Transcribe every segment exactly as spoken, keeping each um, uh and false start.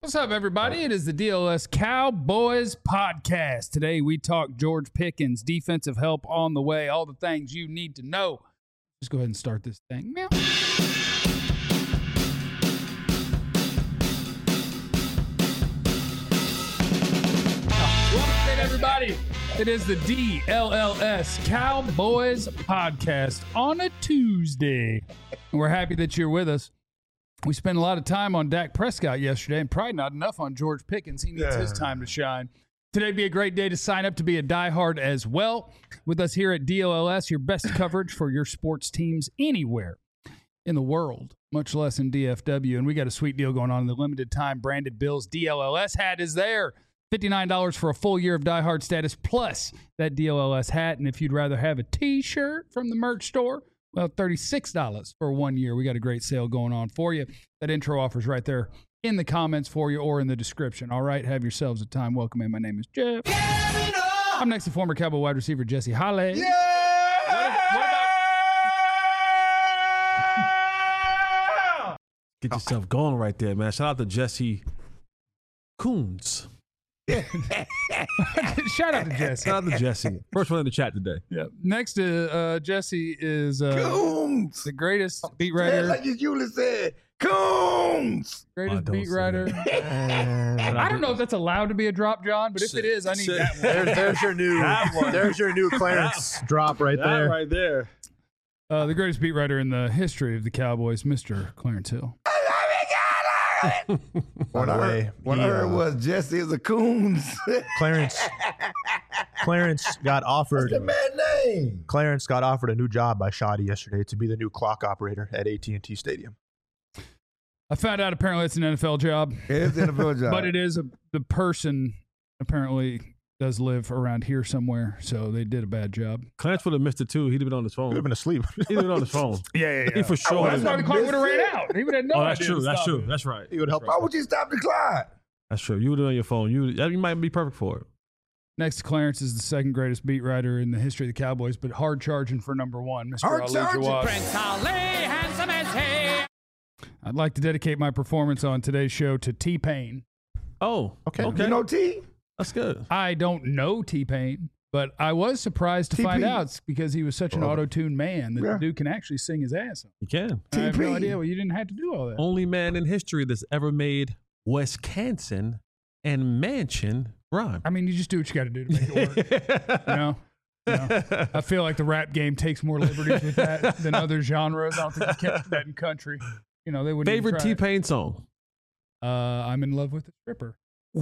What's up, everybody? It is the D L S Cowboys podcast. Today, we talk George Pickens, defensive help on the way, all the things you need to know. Just go ahead and start this thing. Meow. Welcome, everybody. It is the D L L S Cowboys podcast on a Tuesday. And we're happy that you're with us. We spent a lot of time on Dak Prescott yesterday and probably not enough on George Pickens. He needs yeah. his time to shine. Today would be a great day to sign up to be a diehard as well. With us here at D L L S, your best coverage for your sports teams anywhere in the world, much less in D F W. And we got a sweet deal going on in the limited time. Branded Bills D L L S hat is there. fifty-nine dollars for a full year of diehard status plus that D L L S hat. And if you'd rather have a t-shirt from the merch store, well, thirty-six dollars for one year. We got a great sale going on for you. That intro offer's right there in the comments for you or in the description. All right, have yourselves a time. Welcome in. My name is Jeff. I'm next to former Cowboy wide receiver Jesse Holley. Yeah! What, what about... Get yourself going right there, man. Shout out to Jesse Coons. Shout out to Jesse. Shout out to Jesse. First one in the chat today. Yeah. Next to uh, Jesse is uh, Coons. the greatest beat writer. Like you usually said, Coons. Greatest beat writer. I don't know if that's allowed to be a drop, John, but if it is, I need that one. There's, there's your new. There's your new Clarence drop right That there. right there. Uh, the greatest beat writer in the history of the Cowboys, Mister Clarence Hill. What I heard, what I heard was Jesse is a Coons. Clarence. Clarence got offered. What's the man's name? Clarence got offered a new job by Shoddy yesterday to be the new clock operator at A T and T Stadium. I found out apparently it's an N F L job. It is an N F L job. But it is a, the person apparently does live around here somewhere, so they did a bad job. Clarence would have missed it too. He'd have been on his phone. He'd have been asleep. He'd have been on his phone. Yeah, yeah, yeah. He for sure. Oh, That's why the clock would have ran out. He would have no oh, that's idea true. to That's stop true. it. That's right. He would help. Why would you stop the clock? That's true. You would have been on your phone. You, you might be perfect for it. Next to Clarence is the second greatest beat writer in the history of the Cowboys, but hard charging for number one, Mister Hard Ali charging. Jawad. Prince Ali, handsome as he. I'd like to dedicate my performance on today's show to T-Pain. Oh, Okay. Okay. You know T? That's good. I don't know T-Pain, but I was surprised to T P. find out because he was such an Oh. auto-tuned man that Yeah. the dude can actually sing his ass off. You can. I have T P. no idea. Well, you didn't have to do all that. Only man in history that's ever made Wisconsin and Mansion rhyme. I mean, you just do what you got to do to make it work. you know? You know? I feel like the rap game takes more liberties with that than other genres. I don't think you catch that in country. You know, they wouldn't even Favorite try it. T-Pain song? Uh, I'm in love with the stripper.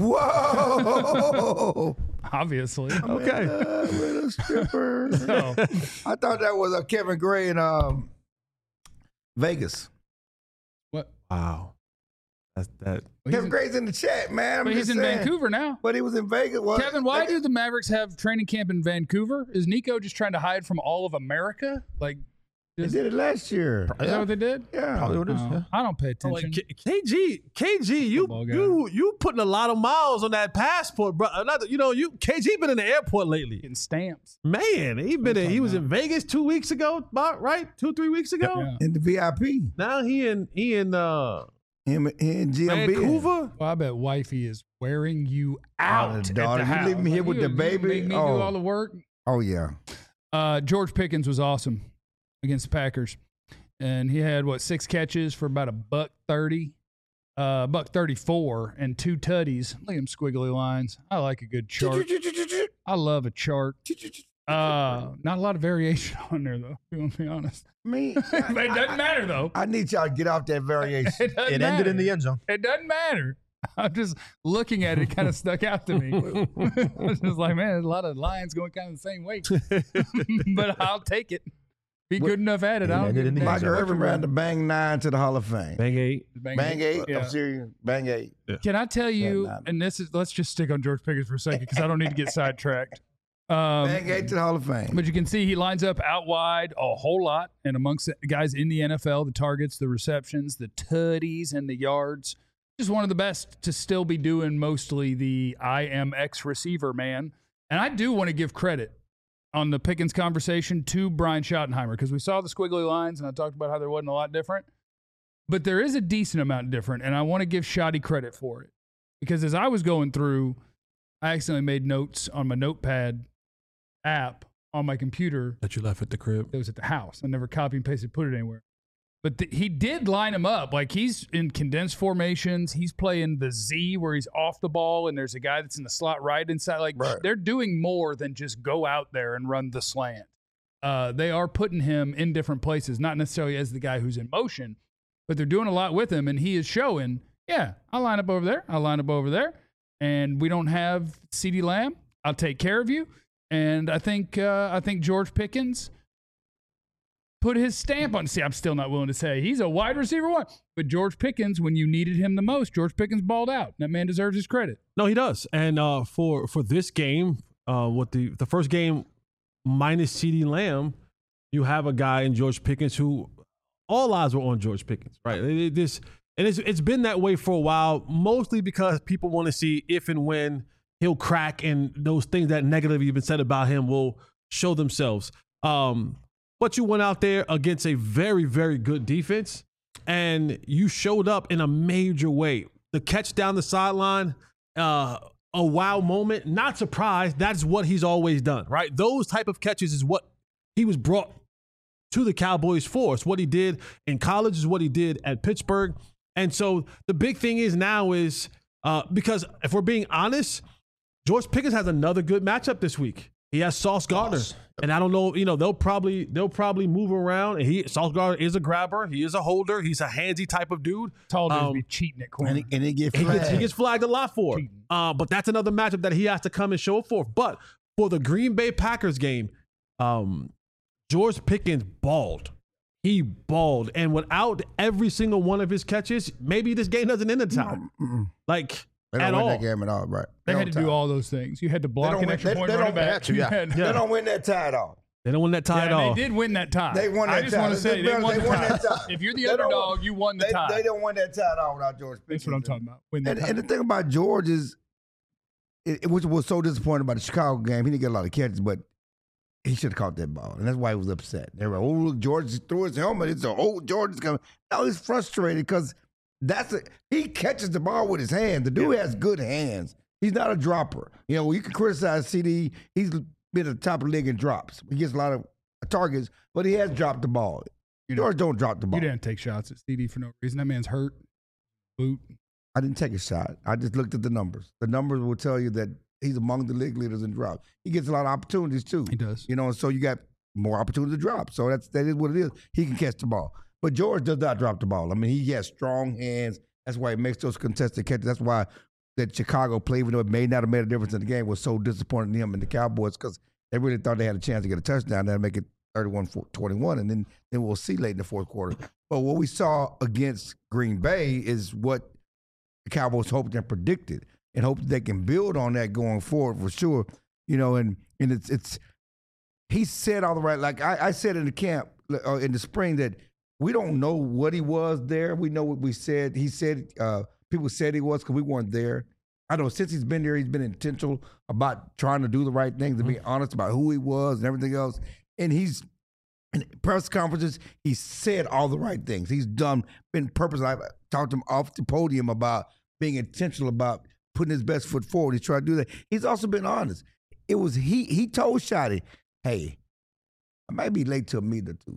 Whoa. Obviously. Okay. Uh, with a stripper. So, I thought that was a Kevin Gray in um, Vegas. what? Wow. That's that. Well, he's Kevin in, Gray's in the chat, man. I'm but he's just in saying. Vancouver now. But he was in Vegas. What? Kevin, why do the Mavericks have training camp in Vancouver? Is Nico just trying to hide from all of America? Like, They is, did it last year. is that what they did? Yeah. Probably what it is. Oh, Yeah. I don't pay Oh, like attention. K- KG, KG, you Football guy. you you putting a lot of miles on that passport, bro. Another, you know, you K G been in the airport lately. Getting stamps. Man, he been in, he was in Vegas two weeks ago, about right, two three weeks ago. Yeah. In the V I P. Now he in he in uh, Him, he and G M B. Vancouver. Well, I bet wifey is wearing you Oh, out the at daughter. the You house. leave me here with you, the you baby? Make me Oh. do all the work. Oh, yeah. Uh, George Pickens was awesome against the Packers, and he had what six catches for about a buck thirty, uh, buck thirty-four, and two tutties. Look at them squiggly lines. I like a good chart. I love a chart. Uh, not a lot of variation on there though. If you want to be honest, Me, but it doesn't matter though. I need y'all to get off that variation. It, doesn't It matter. ended in the end zone. It doesn't matter. I'm just looking at it. It kind of stuck out to me. I was just like, man, there's a lot of lines going kind of the same way. But I'll take it. Be good enough at it. I don't ended give a in the damn end Michael zone. what Irvin you're ran the running. bang nine to the Hall of Fame. Bang eight. Bang, Bang eight. Yeah. I'm serious. Bang eight. Can I tell you, Bang nine. and this is, let's just stick on George Pickens for a second because I don't need to get sidetracked. Um, Bang eight to the Hall of Fame. But you can see he lines up out wide a whole lot. And amongst the guys in the N F L, the targets, the receptions, the tutties, and the yards, just one of the best to still be doing mostly the I am X receiver, man. And I do want to give credit on the Pickens conversation to Brian Schottenheimer because we saw the squiggly lines and I talked about how there wasn't a lot different. But there is a decent amount different, and I want to give Shotty credit for it. because as I was going through, I accidentally made notes on my notepad app on my computer That you left at the crib. that was at the house. I never copy and pasted, put it anywhere. But th- he did line him up. Like, he's in condensed formations. He's playing the Z where he's off the ball, and there's a guy that's in the slot right inside. Like, Right. they're doing more than just go out there and run the slant. Uh, they are putting him in different places, not necessarily as the guy who's in motion, but they're doing a lot with him, and he is showing, yeah, I'll line up over there. I'll line up over there. And we don't have CeeDee Lamb. I'll take care of you. And I think uh, I think George Pickens put his stamp on. See, I'm still not willing to say he's a wide receiver one. But George Pickens, when you needed him the most, George Pickens balled out. That man deserves his credit. No, he does. And uh, for for this game, uh, what the the first game minus CeeDee Lamb, you have a guy in George Pickens who all eyes were on George Pickens, right? It, it, this and it's it's been that way for a while, mostly because people want to see if and when he'll crack, and those things that negatively have been said about him will show themselves. Um, but you went out there against a very, very good defense, and you showed up in a major way. The catch down the sideline, uh, a wow moment. Not surprised. That's what he's always done, right? Those type of catches is what he was brought to the Cowboys for. It's what he did in college, is what he did at Pittsburgh. And so the big thing is now is uh, because if we're being honest, George Pickens has another good matchup this week. He has Sauce Gardner, and I don't know, you know, they'll probably they'll probably move around. And he Sauce Gardner is a grabber, he is a holder, he's a handsy type of dude. Told him Um, to be cheating at corner. And he, and he get He flagged. gets, he gets flagged a lot for. Cheating. Uh, but that's another matchup that he has to come and show forth. But for the Green Bay Packers game, um, George Pickens balled. He balled. And without every single one of his catches, maybe this game doesn't end in time. Mm-mm. Like, They at don't win all. that game at all, right? they don't had to tie. do all those things. You had to block don't an win- extra they- point they running don't back. have to, You yeah. had- Yeah. They don't win that tie at all. They don't win that tie Yeah, at all. they did win that tie. They won I that just tie. want to They- say they- they won they the won tie. that tie. If you're the They don't- underdog, you won the They, tie. they don't win that tie at all without George Pickens. That's what I'm talking about. Win the And, tie. and the thing about George is, it, it- which was so disappointing about the Chicago game, he didn't get a lot of catches, but he should have caught that ball, and that's why he was upset. They were, oh, look, George threw his helmet. It's a oh, George is coming. Now he's frustrated because that's a, he catches the ball with his hand. The dude has good hands. He's not a dropper. You know, you can criticize C D. He's been at the top of the league in drops. He gets a lot of targets, but he has dropped the ball. George don't drop the ball. You didn't take shots at C D for no reason. That man's hurt. Boot. I didn't take a shot. I just looked at the numbers. The numbers will tell you that he's among the league leaders in drops. He gets a lot of opportunities too. He does. You know, so you got more opportunity to drop. So that's that is what it is. He can catch the ball. But George does not drop the ball. I mean, he has strong hands. That's why he makes those contested catches. That's why that Chicago play, even though it may not have made a difference in the game, was so disappointing to him and the Cowboys because they really thought they had a chance to get a touchdown and make it thirty-one twenty-one, and then, then we'll see late in the fourth quarter. But what we saw against Green Bay is what the Cowboys hoped and predicted, and hope they can build on that going forward for sure. You know, and and it's it's he said all the right. Like I, I said in the camp uh, in the spring that we don't know what he was there. We know what we said. He said uh, people said he was because we weren't there. I know since he's been there, he's been intentional about trying to do the right things, to be honest about who he was and everything else. And he's in press conferences, he said all the right things. He's done, been purposeful. I've talked to him off the podium about being intentional about putting his best foot forward. He's trying to do that. He's also been honest. It was he. He told Shotty, "Hey, I might be late to a meet or two,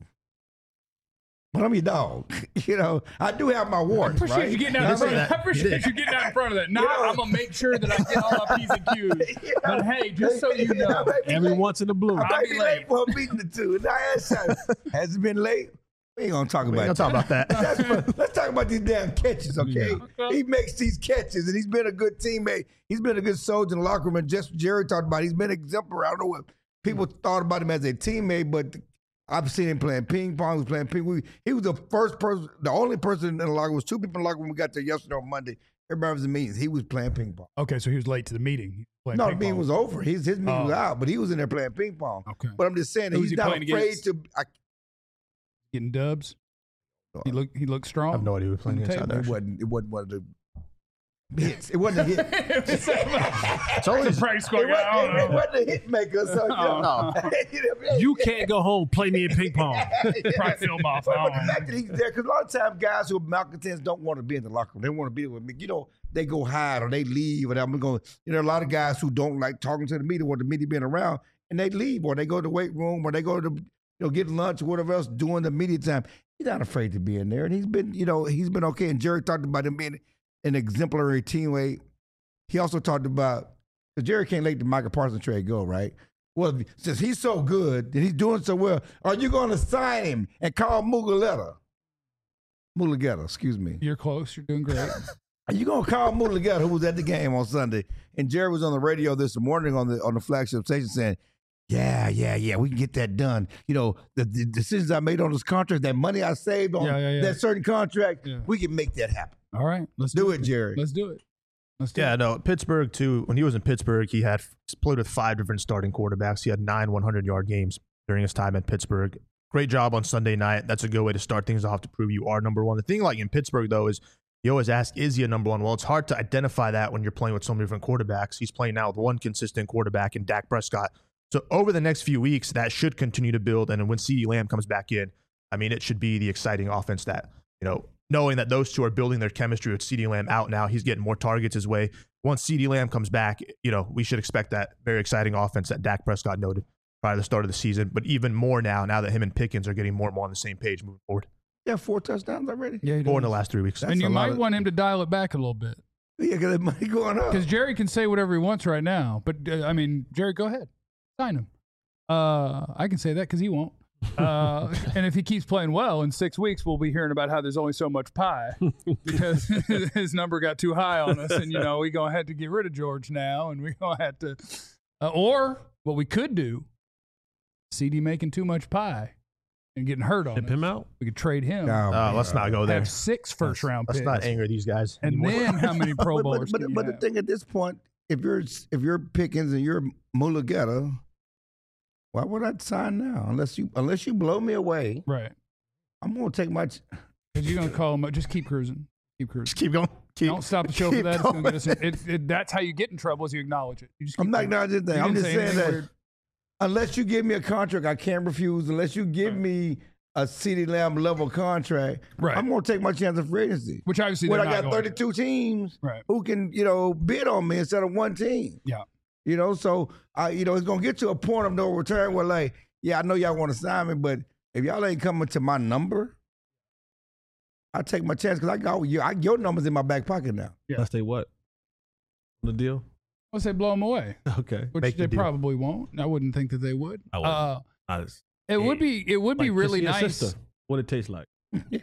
but I'm your dog. You know, I do have my I warrants, appreciate right? you getting out in You know, front of that. I appreciate you getting out in front of that. Nah, You know- I'm gonna make sure that I get all my P's and Q's. You know, But hey, just so you I know, might be Every late. once in a blue. I I'll might be be late. late for a meeting or two. And I asked Shotty, has it been late? We ain't gonna talk We about ain't gonna it. talk about that. That's for- let's talk about these damn catches, okay? Okay. He makes these catches, and he's been a good teammate. He's been a good soldier in the locker room. And just Jerry talked about it. He's been exemplary. I don't know what people thought about him as a teammate, but I've seen him playing ping pong. He was playing ping pong. He was the first person, the only person in the locker room. Was two people in the locker room. We got there yesterday on Monday. Everybody was in meetings. He was playing ping pong. okay, so he was late to the meeting. He was playing No, the ping meeting pong. was over. His his meeting was Oh. out, but he was in there playing ping pong. Okay. But I'm just saying that Who was he's he not playing afraid against? to. I, Getting dubs. He looked. He looked strong. I have no idea who was playing On the against tape. out there. it wasn't. It wasn't one of the hits. It wasn't a hit. It's It's always practice It squad guy. I wasn't, don't it know. wasn't a hit maker. So, you know, no. you know, You can't go home, play me in ping pong. Probably film off. But, I but don't the know. fact that he's there, because a lot of times guys who are malcontents don't want to be in the locker room. They want to be with me. You know, they go hide or they leave, or I'm going. You know, a lot of guys who don't like talking to the media, want the media being around, and they leave, or they go to the weight room, or they go to you know get lunch or whatever else during the media time. He's not afraid to be in there, and he's been you know he's been okay. And Jerry talked about him being an exemplary teammate. He also talked about because Jerry can't let the Michael Parsons trade go, right? Well, since he's so good and he's doing so well, are you going to sign him and call Mulugheta? Mulugheta, excuse me. You're close. You're doing great. Are you going to call Mulugheta, who was at the game on Sunday? And Jerry was on the radio this morning on the on the flagship station saying, yeah, yeah, yeah, we can get that done. You know, the, the decisions I made on this contract, that money I saved on Yeah, yeah, yeah. that certain contract, Yeah. we can make that happen. All right. Let's Do do, it, Jerry. Let's do it. Let's do Yeah, it. no, Pittsburgh, too. When he was in Pittsburgh, he had played with five different starting quarterbacks. He had nine hundred-yard games during his time in Pittsburgh. Great job on Sunday night. That's a good way to start things off to prove you are number one. The thing like in Pittsburgh, though, is you always ask, is he a number one? Well, it's hard to identify that when you're playing with so many different quarterbacks. He's playing now with one consistent quarterback in Dak Prescott. So over the next few weeks, that should continue to build. And when CeeDee Lamb comes back in, I mean, it should be the exciting offense that, you know, knowing that those two are building their chemistry with CeeDee Lamb out now, he's getting more targets his way. Once CeeDee Lamb comes back, you know, we should expect that very exciting offense that Dak Prescott noted prior to the start of the season, but even more now, now that him and Pickens are getting more and more on the same page moving forward. Yeah, four touchdowns already? Yeah, he Four in the does. last three weeks. That's And you a lot might of- want him to dial it back a little bit Yeah, because the money going up. because Jerry can say whatever he wants right now. But uh, I mean, Jerry, go ahead, sign him. Uh, I can say that because he won't. Uh, and if he keeps playing well, in six weeks we'll be hearing about how there's only so much pie because his number got too high on us, and you know we gonna have to get rid of George now, and we gonna have to. Uh, or what we could do, C D making too much pie and getting hurt on Tip us. him out. We could trade him. Oh, Uh, man. let's not go there. Have six first round Let's picks. not anger these guys And anymore. then how many Pro But- Bowlers? But, can but, you but the have? thing at this point, if you're if you're Pickens and you're Mulugheta, why would I sign now? Unless you unless you blow me away, Right. I'm gonna take my. Ch- Because you're going to call him up. Just keep cruising. Keep cruising. Just keep going. Keep, Don't stop the show for keep that. It's gonna get us in- going. it, it, that's how you get in trouble is you acknowledge it. You just keep I'm not going. acknowledging You anything. I'm didn't just say saying anything that weird. unless you give me a contract, I can't refuse. Unless you give Right. me a CeeDee Lamb level contract, Right. I'm gonna take my chance of free agency. Which obviously When they're I not got going to. thirty-two teams Right. who can, you know, bid on me instead of one team. Yeah. You know, so I, you know, it's gonna get to a point of no return where, like, yeah, I know y'all want to sign me, but if y'all ain't coming to my number, I take my chance because I got your, I, your number's in my back pocket now. Yeah. Unless they what? On the deal? Let's say blow them away, Okay. which Make the they deal. probably won't. I wouldn't think that they would. I wouldn't. Uh, I just- it would be. It would be like really kissing your nice. sister. What it tastes like.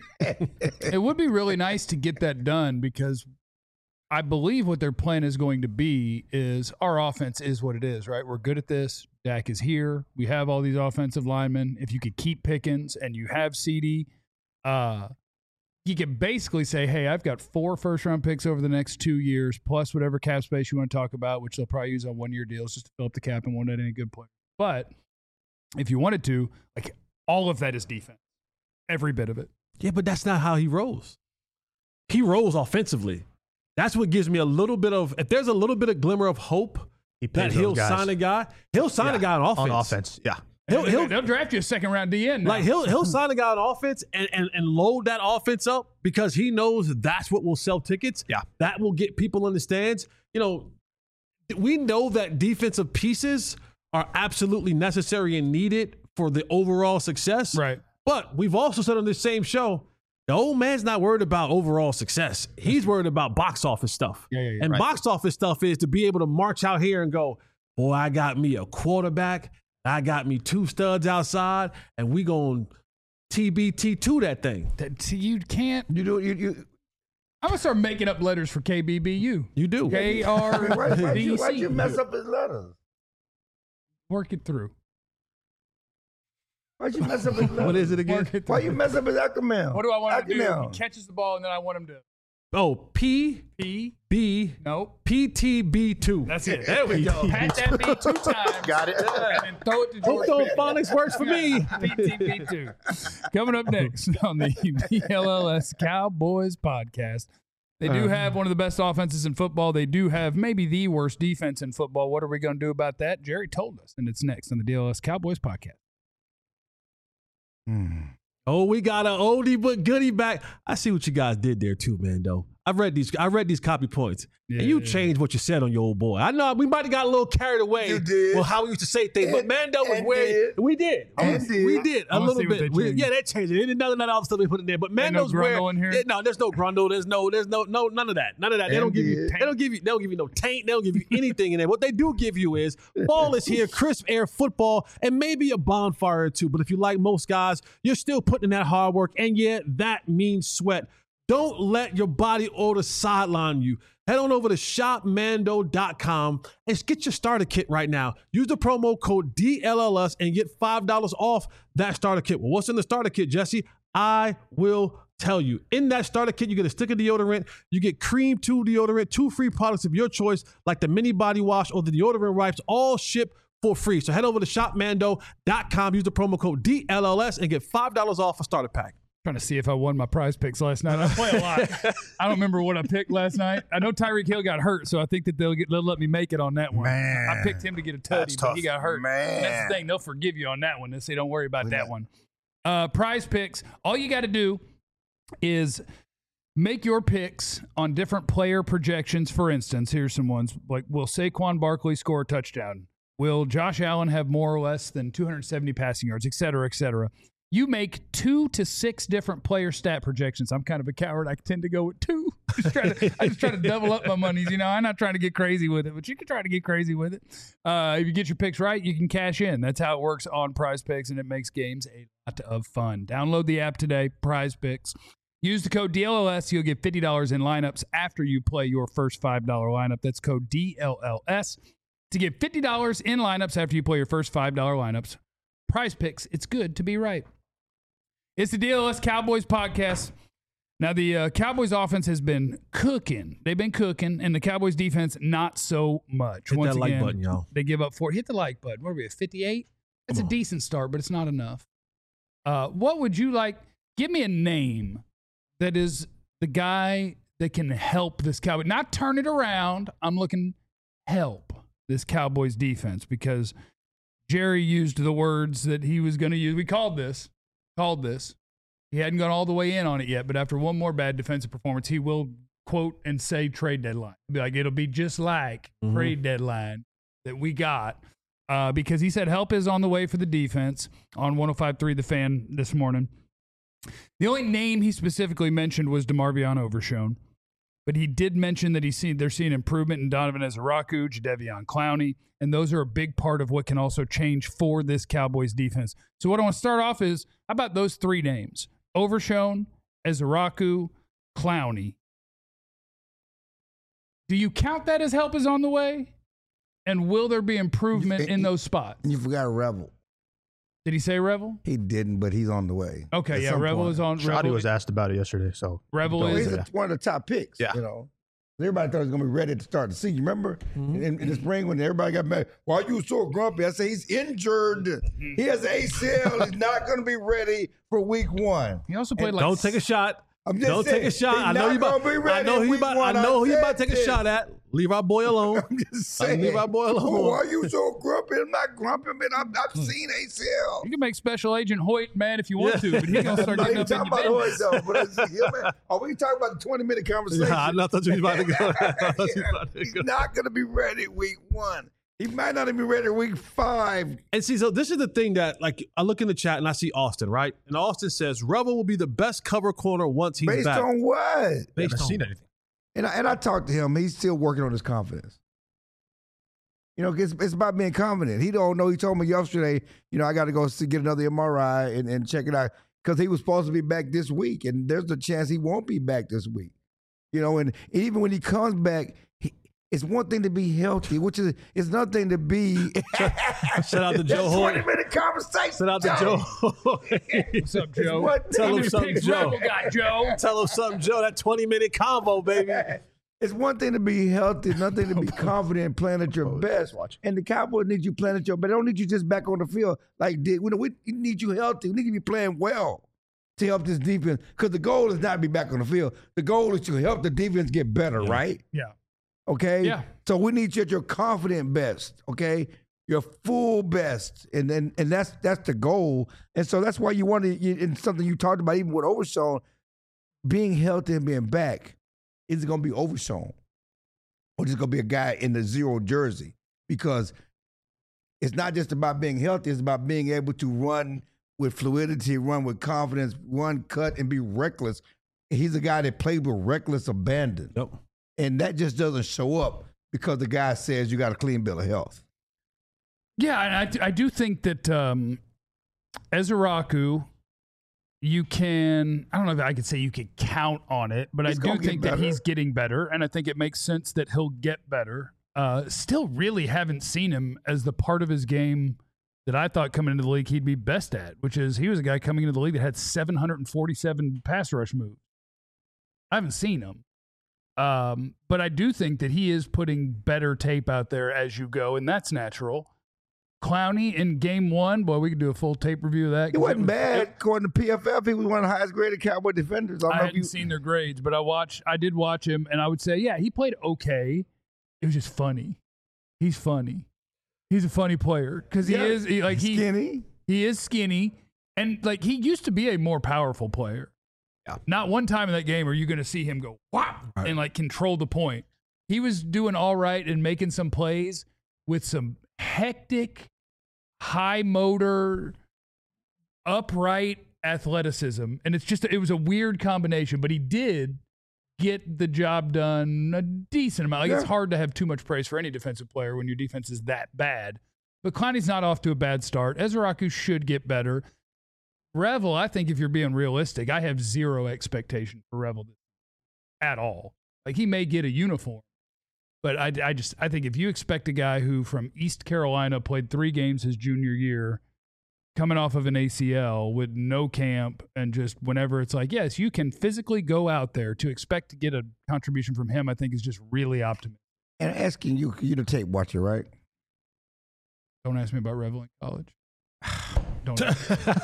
It would be really nice to get that done because I believe what their plan is going to be is our offense is what it is, right? We're good at this. Dak is here. We have all these offensive linemen. If you could keep Pickens and you have CeeDee, uh, you could basically say, hey, I've got four first round picks over the next two years, plus whatever cap space you want to talk about, which they'll probably use on one year deals just to fill up the cap and won't add any good players. But if you wanted to, like all of that is defense, every bit of it. Yeah, but that's not how he rolls. He rolls offensively. That's what gives me a little bit of, if there's a little bit of glimmer of hope He that pays he'll those guys. sign a guy, he'll sign a Yeah, guy on offense. On offense, yeah. He'll, They'll, he'll, they'll draft you a second round D N. Now. like he'll he'll sign a guy on offense and, and, and load that offense up because he knows that's what will sell tickets. Yeah. That will get people in the stands. You know, we know that defensive pieces are absolutely necessary and needed for the overall success. Right. But we've also said on this same show, the old man's not worried about overall success. He's worried about box office stuff. Yeah, yeah, yeah. And Right. box office stuff is to be able to march out here and go, boy, I got me a quarterback. I got me two studs outside, and we going T B T two that thing. That- see, you can't. You do you you. I'm gonna start making up letters for K B B U. You do. K I R mean, why, why'd, B you, why'd C. you mess up his letters? Work it through. Why'd you mess up his letters? What is it again? Work it Why through. you mess up his acronym? What do I want him to do? Acronym. He catches the ball and then I want him to Oh, P P. B Nope. P T B two. That's it. There we go. Pat that B two times. Got it. And then throw it to George. Hooked on phonics works for me. P T B two. Coming up next on the D L L S Cowboys podcast. They do have one of the best offenses in football. They do have maybe the worst defense in football. What are we going to do about that? Jerry told us, and it's next on the D L L S Cowboys podcast. Hmm. Oh, we got an oldie but goodie back. I see what you guys did there too, man, though. I've read these. I read these copy points, Yeah, and you yeah, changed what you said on your old boy. I know we might have got a little carried away. You did. Well, how we used to say things, but And- Mando was and where did. we did. And did. We did I a wanna little see what bit. they We, changed. yeah, they changed it. None of that other stuff they put in there. But Ain't no Mando's where. grundle in here? Yeah, no, there's no grundle. There's no. There's no. No. None of that. None of that. They And don't give you. did. They don't give you. They don't give you no taint. They don't give you anything in there. What they do give you is fall is here, crisp air, football, and maybe a bonfire or two. But if you like most guys, you're still putting in that hard work, and yeah, that means sweat. Don't let your body odor sideline you. Head on over to shop mando dot com and get your starter kit right now. Use the promo code D L L S and get five dollars off that starter kit. Well, what's in the starter kit, Jesse? I will tell you. In that starter kit, you get a stick of deodorant, you get Cream two deodorant, two free products of your choice, like the mini body wash or the deodorant wipes, all shipped for free. So head over to shop mando dot com, use the promo code D L L S and get five dollars off a starter pack. Trying to see if I won my prize picks last night. I play a lot. I don't remember what I picked last night. I know Tyreek Hill got hurt, so I think that they'll get they'll let me make it on that one. Man. I picked him to get a tutty, That's but tough. he got hurt. Man. And that's the thing; they'll forgive you on that one. They say don't worry about that Yeah. one. Uh, prize picks. All you got to do is make your picks on different player projections. For instance, here's some ones like: will Saquon Barkley score a touchdown? Will Josh Allen have more or less than two hundred seventy passing yards, et cetera, et cetera? You make two to six different player stat projections. I'm kind of a coward. I tend to go with two. Just try to, I just try to double up my monies. You know, I'm not trying to get crazy with it, but you can try to get crazy with it. Uh, if you get your picks right, you can cash in. That's how it works on Prize Picks, and it makes games a lot of fun. Download the app today, Prize Picks. Use the code D L L S. You'll get fifty dollars in lineups after you play your first five dollar lineup. That's code D L L S to get fifty dollars in lineups after you play your first five dollar lineups. Prize Picks, it's good to be right. It's the D L S Cowboys podcast. Now, the uh, Cowboys offense has been cooking. They've been cooking, and the Cowboys defense, not so much. Hit Once that like again, button, y'all. They give up four. Hit the like button. What are we at, fifty-eight? That's a decent start, but it's not enough. Uh, what would you like? Give me a name that is the guy that can help this Cowboy. Not turn it around. I'm looking help this Cowboys defense because Jerry used the words that he was going to use. We called this. Called this. He hadn't gone all the way in on it yet, but after one more bad defensive performance, he will quote and say trade deadline. He'll be like, it'll be just like Mhm. trade deadline that we got uh, because he said help is on the way for the defense on one oh five point three The Fan this morning. The only name he specifically mentioned was DeMarvion Overshown, but he did mention that he's seen they're seeing improvement in Donovan Ezeraku, Jadeveon Clowney, and those are a big part of what can also change for this Cowboys defense. So what I want to start off is, how about those three names? Overshown, Ezeraku, Clowney. Do you count that as help is on the way? And will there be improvement in those spots? And you forgot Revel. Did he say Revel? He didn't, but he's on the way. Okay, At yeah, some Revel point. is on. Shoddy Revel, was asked about it yesterday, so Revel Well, is- he's yeah. one of the top picks. Yeah. You know, everybody thought he was gonna be ready to start the season. Remember in, in the spring when everybody got mad, why are you so grumpy? I say he's injured. He has an A C L. He's not gonna be ready for week one. He also played like Don't take a shot. I'm just Don't saying, take a shot. he's I know not you about. gonna be I ready know in he week about. one. I know I he about to said take a this. shot at. Leave our boy alone. I'm just I saying. leave our boy alone. Oh, why are you so grumpy? I'm not grumpy, man. I've, I've seen A C L. you can make Special Agent Hoyt mad if you want to, but he's gonna start I'm getting not up in even talking your about business. Hoyt, though, but I see him, man. Are we talking about the twenty minute conversation? Yeah, I thought you was about to go. I thought you was about to He's go. not going to be ready week one. He might not even be ready week five. And see, so this is the thing that, like, I look in the chat and I see Austin, right? And Austin says Revel will be the best cover corner once he's Based back. on what? I Based haven't on seen anything. And I, and I talked to him. He's still working on his confidence. You know, it's, it's about being confident. He don't know. He told me yesterday, you know, I got to go see, get another M R I and, and check it out because he was supposed to be back this week, and there's a chance he won't be back this week. You know, and even when he comes back, he, it's one thing to be healthy, which is it's another thing to be. Shout out to Joe Hoyt. twenty minute conversation. Shout out to Joe. Hoyt. What's up, Joe? What Tell him Who's something, Picks Joe. Rebel got, Joe? Tell him something, Joe. That twenty minute convo, baby. It's one thing to be healthy, another thing to be confident and playing at your best. And the Cowboys need you playing at your best. They don't need you just back on the field like did. We, we need you healthy. We need you to be playing well to help this defense. Because the goal is not to be back on the field. The goal is to help the defense get better, right? Yeah. Okay? Yeah. So we need you at your confident best, okay? Your full best. And and, and that's that's the goal. And so that's why you want to, and something you talked about even with Overshown, being healthy and being back. is it going to be Overshown? Or just going to be a guy in the zero jersey? Because it's not just about being healthy. It's about being able to run with fluidity, run with confidence, run, cut, and be reckless. He's a guy that plays with reckless abandon. Yep. And that just doesn't show up because the guy says you got a clean bill of health. Yeah, and I, I do think that um, Ezeraku, you can, I don't know if I could say you could count on it, but He's I do gonna get think that better. he's getting better, and I think it makes sense that he'll get better. Uh, still really haven't seen him as the part of his game that I thought coming into the league he'd be best at, which is he was a guy coming into the league that had seven hundred forty-seven pass rush moves. I haven't seen him. Um, but I do think that he is putting better tape out there as you go, and that's natural. Clowney in game one, boy, we could do a full tape review of that. He wasn't bad. According to P F F, he was one of the highest graded Cowboy defenders. I, don't I know if hadn't you, seen their grades, but I watched. I did watch him, and I would say, yeah, he played okay. It was just funny. He's funny. He's a funny player because he Yeah, is he, like he skinny. he is skinny, and like he used to be a more powerful player. Yeah. Not one time in that game are you going to see him go whop Right. and like control the point. He was doing all right and making some plays with some hectic, high motor, upright athleticism, and it's just it was a weird combination. But he did get the job done a decent amount. Like Yeah. it's hard to have too much praise for any defensive player when your defense is that bad. But Clowney's not off to a bad start. Ezeraku should get better. Revel, I think if you're being realistic, I have zero expectation for Revel at all. Like he may get a uniform, but I, I just I think if you expect a guy who from East Carolina played three games his junior year, coming off of an A C L with no camp and just whenever it's like, yes, you can physically go out there, to expect to get a contribution from him, I think is just really optimistic. And asking you, you the tape watcher, right? Don't ask me about Revel in college. Don't. What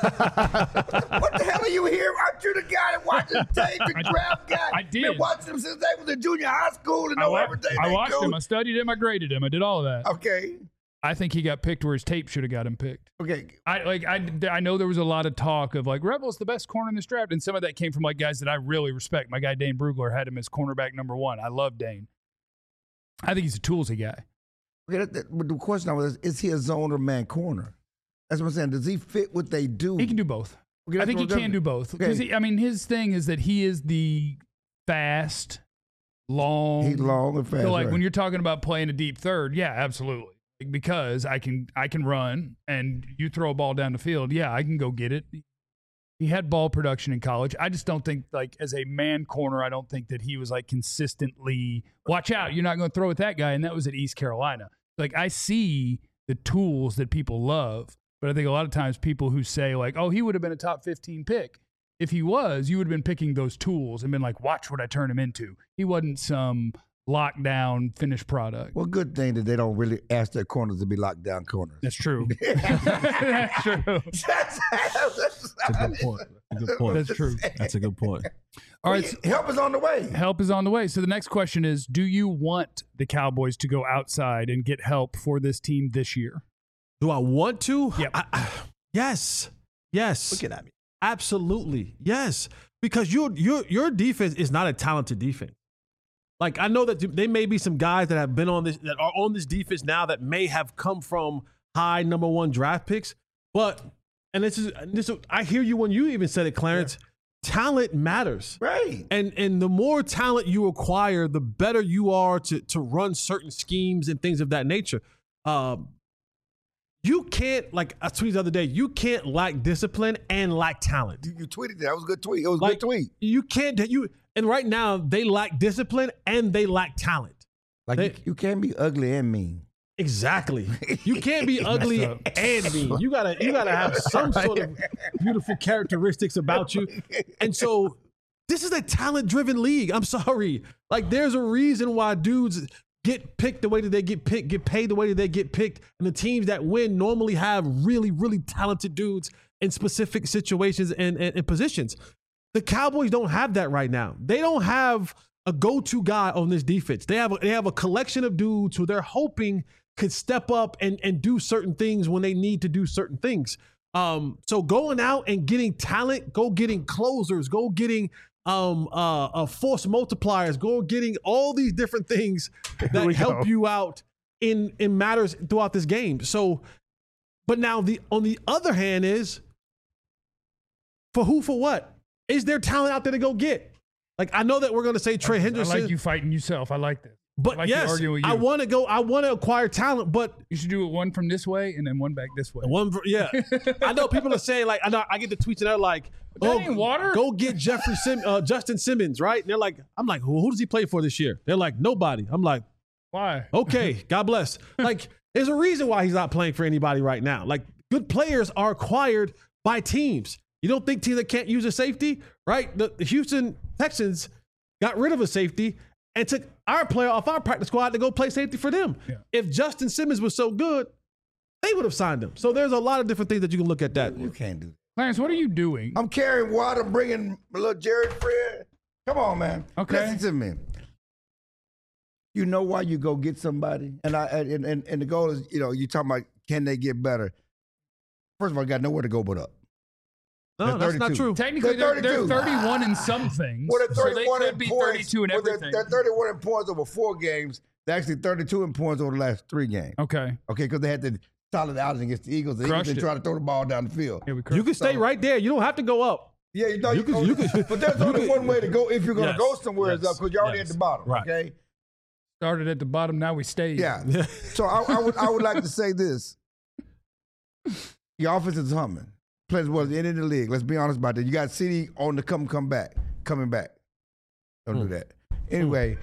the hell are you here? Aren't you the guy that watches tape and draft guy? I did. Been watching them since they was in junior high school and I, know wa- everything. I they watched do. him. I studied him. I graded him. I did all of that. Okay. I think he got picked where his tape should have got him picked. Okay. I like. I, I know there was a lot of talk of like Revel's the best corner in this draft, and some of that came from like guys that I really respect. My guy Dane Brugler had him as cornerback number one. I love Dane. I think he's a toolsy guy. Okay, that, that, but the question I was, is he a zone or man corner? That's what I'm saying. Does he fit what they do? He can do both. Okay, I that's think he what I'm- can do both. Because Okay. I mean, his thing is that he is the fast, long. He's long and fast. So like right. when you're talking about playing a deep third, yeah, absolutely. Because I can I can run and you throw a ball down the field, yeah, I can go get it. He had ball production in college. I just don't think like as a man corner, I don't think that he was like consistently watch out, you're not going to throw at that guy, and that was at East Carolina. Like I see the tools that people love, but I think a lot of times people who say like, "Oh, he would have been a top fifteen pick." If he was, you would have been picking those tools and been like, "Watch what I turn him into." He wasn't some lockdown finished product. Well, good thing that they don't really ask their corners to be locked down corners. That's true. That's true. That's a good point. That's a good point. That's true. That's a good point. All right. so Help is on the way. help is on the way. So the next question is, do you want the Cowboys to go outside and get help for this team this year? Do I want to? Yep. I, I, yes. Yes. Looking at me. Absolutely. Yes. Because your your your defense is not a talented defense. Like I know that there may be some guys that have been on this that are on this defense now that may have come from high number one draft picks, but and this is this is, I hear you when you even said it, Clarence. Yeah. Talent matters. Right. And and the more talent you acquire, the better you are to to run certain schemes and things of that nature. Um, you can't, like I tweeted the other day, you can't lack discipline and lack talent. You, you tweeted that. That was a good tweet. It was a Like, good tweet. You can't you and right now they lack discipline and they lack talent. Like They- you, you can't be ugly and mean. Exactly. You can't be ugly up. and mean. You gotta you gotta have some sort of beautiful characteristics about you. And so this is a talent-driven league. I'm sorry. Like there's a reason why dudes get picked the way that they get picked, get paid the way that they get picked. And the teams that win normally have really, really talented dudes in specific situations and, and, and positions. The Cowboys don't have that right now. They don't have a go-to guy on this defense. They have a, they have a collection of dudes who they're hoping could step up and, and do certain things when they need to do certain things. Um, so going out and getting talent, go getting closers, go getting um, uh, uh, force multipliers. Go getting all these different things that we help go. you out in in matters throughout this game. So, but now the on the other hand is for who for what? Is there talent out there to go get? Like I know that we're going to say Trey I Henderson, like you fighting yourself. I like this. but I like you yes, arguing with you. I want to go. I want to acquire talent, but You should do it one from this way and then one back this way. one, yeah. I know people are saying like I know I get the tweets and they're like, That "Oh, ain't water." go get Jeffrey Sim, uh, Justin Simmons, right?" And they're like, "I'm like, who, who does he play for this year?" They're like, "Nobody." I'm like, Why? "Okay, God bless." Like, there's a reason why he's not playing for anybody right now. Like, good players are acquired by teams. You don't think teams that can't use a safety, right? The, the Houston Texans got rid of a safety and took our player off our practice squad to go play safety for them. Yeah. If Justin Simmons was so good, they would have signed him. So there's a lot of different things that you can look at that. You can't do that. Clarence, what are you doing? I'm carrying water, bringing a little Jared Fred. Come on, man. Okay. Listen to me. You know why you go get somebody? And I and, and, and the goal is, you know, you talking about can they get better? First of all, you got nowhere to go but up. No, They're that's not thirty-two. true. Technically, They're they're, they're thirty-two. thirty-one in some things. Well, they're so they thirty-one could in be points. thirty-two in well, they're- everything. They're, thirty-one in points over four games. They're actually thirty-two in points over the last three games. Okay. Okay, because they had the solid outing against the Eagles. The Eagles Crushed didn't it. try to throw the ball down the field. Yeah, we You can stay So- right there. You don't have to go up. Yeah, you know, You you, could- go, you could- but there's you only could- one way to go if you're going to Yes, go somewhere is yes, up because you're already yes. at the bottom. Right. Okay. Started at the bottom, now we stayed. Yeah. So I, I would I would like to say this: your offense is humming. Players was in the league. Let's be honest about that. You got C D on the come come back, coming back. Don't do that. Anyway,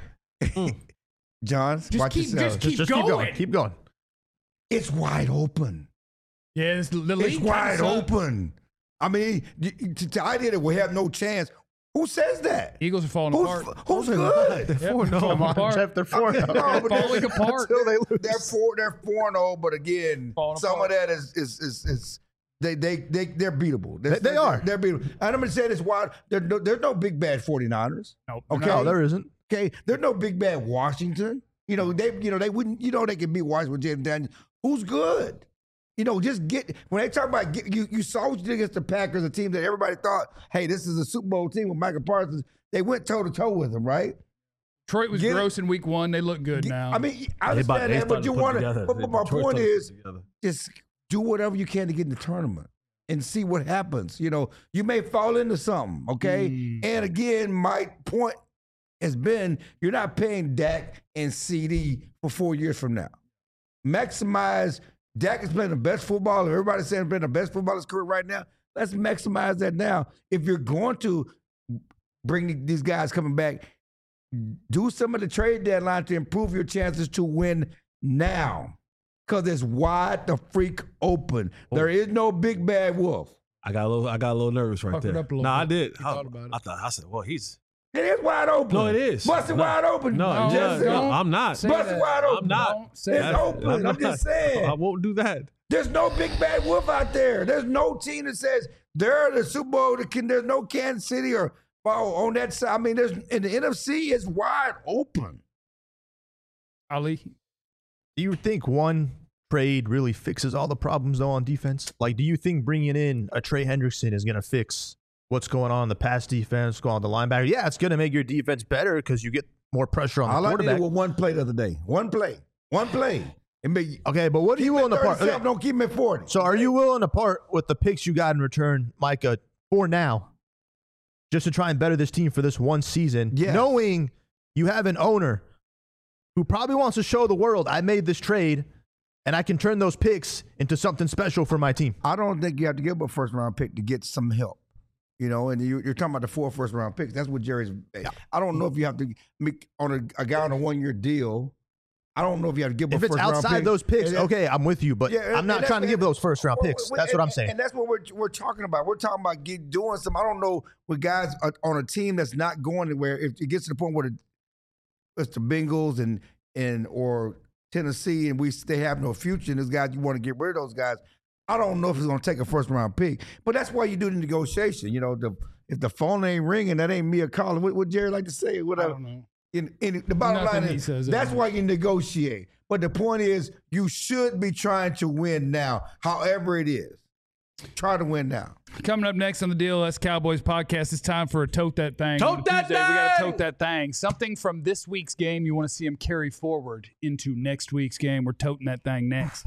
John, Just watch keep, yourself. just keep Just going. keep going. Keep going. It's wide open. Yeah, it's, the league It's kinda wide sucks. open. I mean, the, the idea that we have no chance. Who says that? Eagles are falling Who's, apart. who's good? They're Yep, four they're no. falling apart. Jeff, they're four. No, but Falling they're- apart. Until they lose. They're four. They're four and zero. But again, Falling some apart. of that is is is, is they they they they're beatable. They're, They- they are. They're beatable. And I'm gonna say this: wide. There's no, there's no big bad 49ers. Nope. Okay. No, there isn't. Okay. There's no big bad Washington. You know they you know they wouldn't. You know they can beat Washington with Jaden Daniels. Who's good? You know, just get when they talk about get, you. You saw what you did against the Packers, a team that everybody thought, hey, this is a Super Bowl team with Michael Parsons. They went toe to toe with them, right? Detroit was Get it- gross in week one. They look good now. I mean, I They about- understand they that, but started you to put want it to. together. But, They- but my Detroit point started to is, put it together. just do whatever you can to get in the tournament and see what happens. You know, you may fall into something, okay? Mm. And again, my point has been you're not paying Dak and C D for four years from now. Maximize. Dak is playing the best football. Everybody's saying he's playing the best football in his career right now. Let's maximize that now. If you're going to bring these guys coming back, do some of the trade deadline to improve your chances to win now. Because it's wide the freak open. There is no big bad wolf. I got a little. I got a little nervous right Puckered there. up a little No, I bit. did. You I, thought about it. I thought. I said, "Well, he's It is wide open. no, it is. Bust it No. wide open. no, No, yeah, just, no, don't I'm not. say bust it that. wide open. I'm not. Don't say It's that. open. I'm, not. just saying. I won't do that. There's no big bad wolf out there. There's no team that says they're the Super Bowl. The can- There's no Kansas City or oh, on that side. I mean, there's in the N F C is wide open. Ali, Do you think one trade really fixes all the problems though on defense? Like, do you think bringing in a Trey Hendrickson is going to fix what's going on in the pass defense, going on the linebacker? Yeah, it's going to make your defense better because you get more pressure on the All I did quarterback. was one play the other day. One play. One play. And be, Okay, but what are keep you him willing at to part? thirty-seven, okay, Don't keep him at forty. So are you willing to part with the picks you got in return, Micah, for now, just to try and better this team for this one season, Yes. knowing you have an owner who probably wants to show the world I made this trade and I can turn those picks into something special for my team? I don't think you have to give up a first round pick to get some help. You know, and you, you're talking about the four first round picks. That's what Jerry's. I don't know if you have to make on a, a guy on a one year deal. I don't know if you have to give up If a it's first round outside pick. those picks, And that- okay, I'm with you, but Yeah, and- I'm not and trying to that's- give those first round Well, picks. well, That's and- what I'm saying. And that's what we're we're talking about. We're talking about get, doing some. I don't know with guys are on a team that's not going anywhere. If it gets to the point where the, it's the Bengals and and or Tennessee and we they have no future, and those guys you want to get rid of those guys. I don't know if it's going to take a first round pick, but that's why you do the negotiation. You know, the if the phone ain't ringing, that ain't me or calling. What would Jerry like to say? I Whatever. don't know. In, in the bottom Nothing line he is says, that's uh, why you negotiate. But the point is, you should be trying to win now, however it is. Try to win now. Coming up next on the D L S Cowboys podcast, it's time for a tote that thing. Tote On that Tuesday, We got to thing! tote that thing. Something from this week's game you want to see them carry forward into next week's game. We're toting that thing next.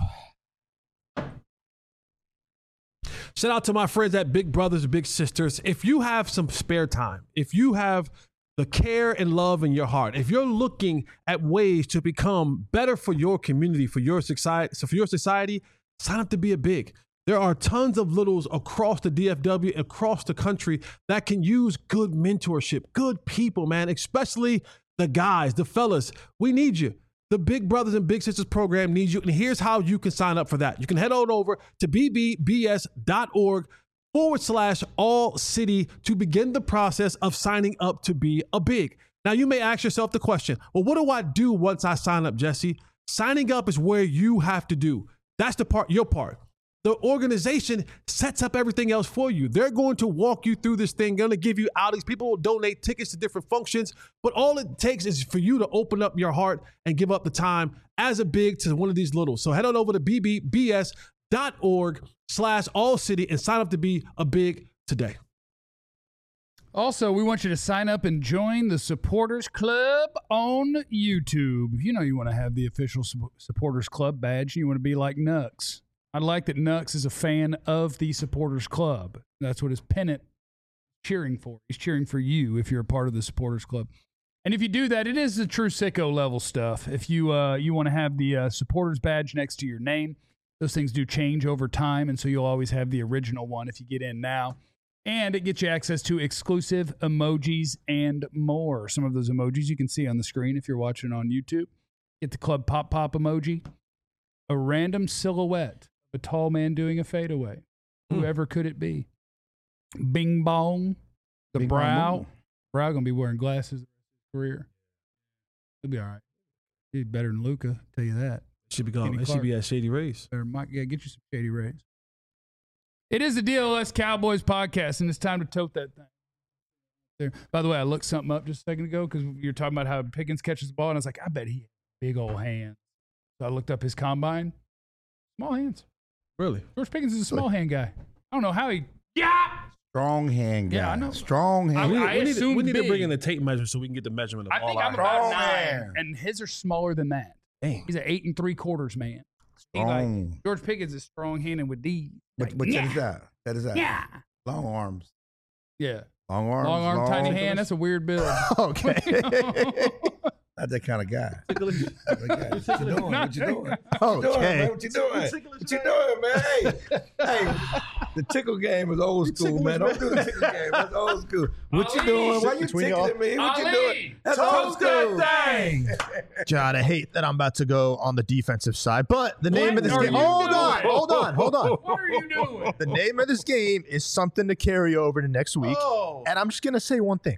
Shout out to my friends at Big Brothers Big Sisters. If you have some spare time, if you have the care and love in your heart, if you're looking at ways to become better for your community, for your society, so for your society, sign up to be a Big. There are tons of littles across the D F W, across the country that can use good mentorship, good people, man, especially the guys, the fellas. We need you. The Big Brothers and Big Sisters program needs you. And here's how you can sign up for that. You can head on over to bbbs.org forward slash all city to begin the process of signing up to be a Big. Now, you may ask yourself the question, well, what do I do once I sign up, Jesse? Signing up is where you have to do. That's the part, your part. The organization sets up everything else for you. They're going to walk you through this thing, going to give you outings. People will donate tickets to different functions, but all it takes is for you to open up your heart and give up the time as a Big to one of these littles. So head on over to bbbs.org slash all city and sign up to be a Big today. Also, we want you to sign up and join the Supporters Club on YouTube. You know you want to have the official Supporters Club badge. You want to be like Nux. I like that Nux is a fan of the Supporters Club. That's what his pennant is cheering for. He's cheering for you if you're a part of the Supporters Club. And if you do that, it is the true sicko level stuff. If you uh, you want to have the uh, Supporters badge next to your name, those things do change over time, and so you'll always have the original one if you get in now. And it gets you access to exclusive emojis and more. Some of those emojis you can see on the screen if you're watching on YouTube. Get the Club Pop Pop emoji. A random silhouette of a tall man doing a fadeaway. Mm. Whoever could it be? Bing bong. The Bing bong brow. boom. Brow going to be wearing glasses the rest of his career. He'll be all right. He's better than Luka, tell you that. Should be going. Kenny It should Clark. be at Shady Rays. Better, Mike, yeah, get you some Shady Rays. It is the D L S Cowboys podcast, and it's time to tote that thing. There. By the way, I looked something up just a second ago because you're talking about how Pickens catches the ball, and I was like, I bet he has big old hands. So I looked up his combine. Small hands. Really? George Pickens is a small hand guy. I don't know how he. Yeah. Strong hand guy. Yeah, I know. Strong hand. We, I we need, to, assumed we need to big. bring in the tape measure so we can get the measurement of I all think our I'm about Strong nine, hand. and his are smaller than that. Dang. He's an eight and three quarters man. He like, Strong. George Pickens is strong handed with D. But, Like, but yeah. check this out. That is out. Yeah. Long arms. Yeah. Long arms. Long arm, tiny hand. That's a weird build. Okay. Not that kind of guy. Ticklish. Not that guy. What you doing? What you doing? Okay. What you doing, man? What you doing, man? Hey, hey, the tickle game is old school, man. Don't do the tickle game. That's old school. What you Ali, doing? Why you between tickling y'all. me? What you Ali, doing? That's tote old school. that thing. John, I hate that I'm about to go on the defensive side, but the name What of this are game. you Hold doing? on, hold on, hold on. What are you doing? The name of this game is something to carry over to next week. Oh. And I'm just going to say one thing.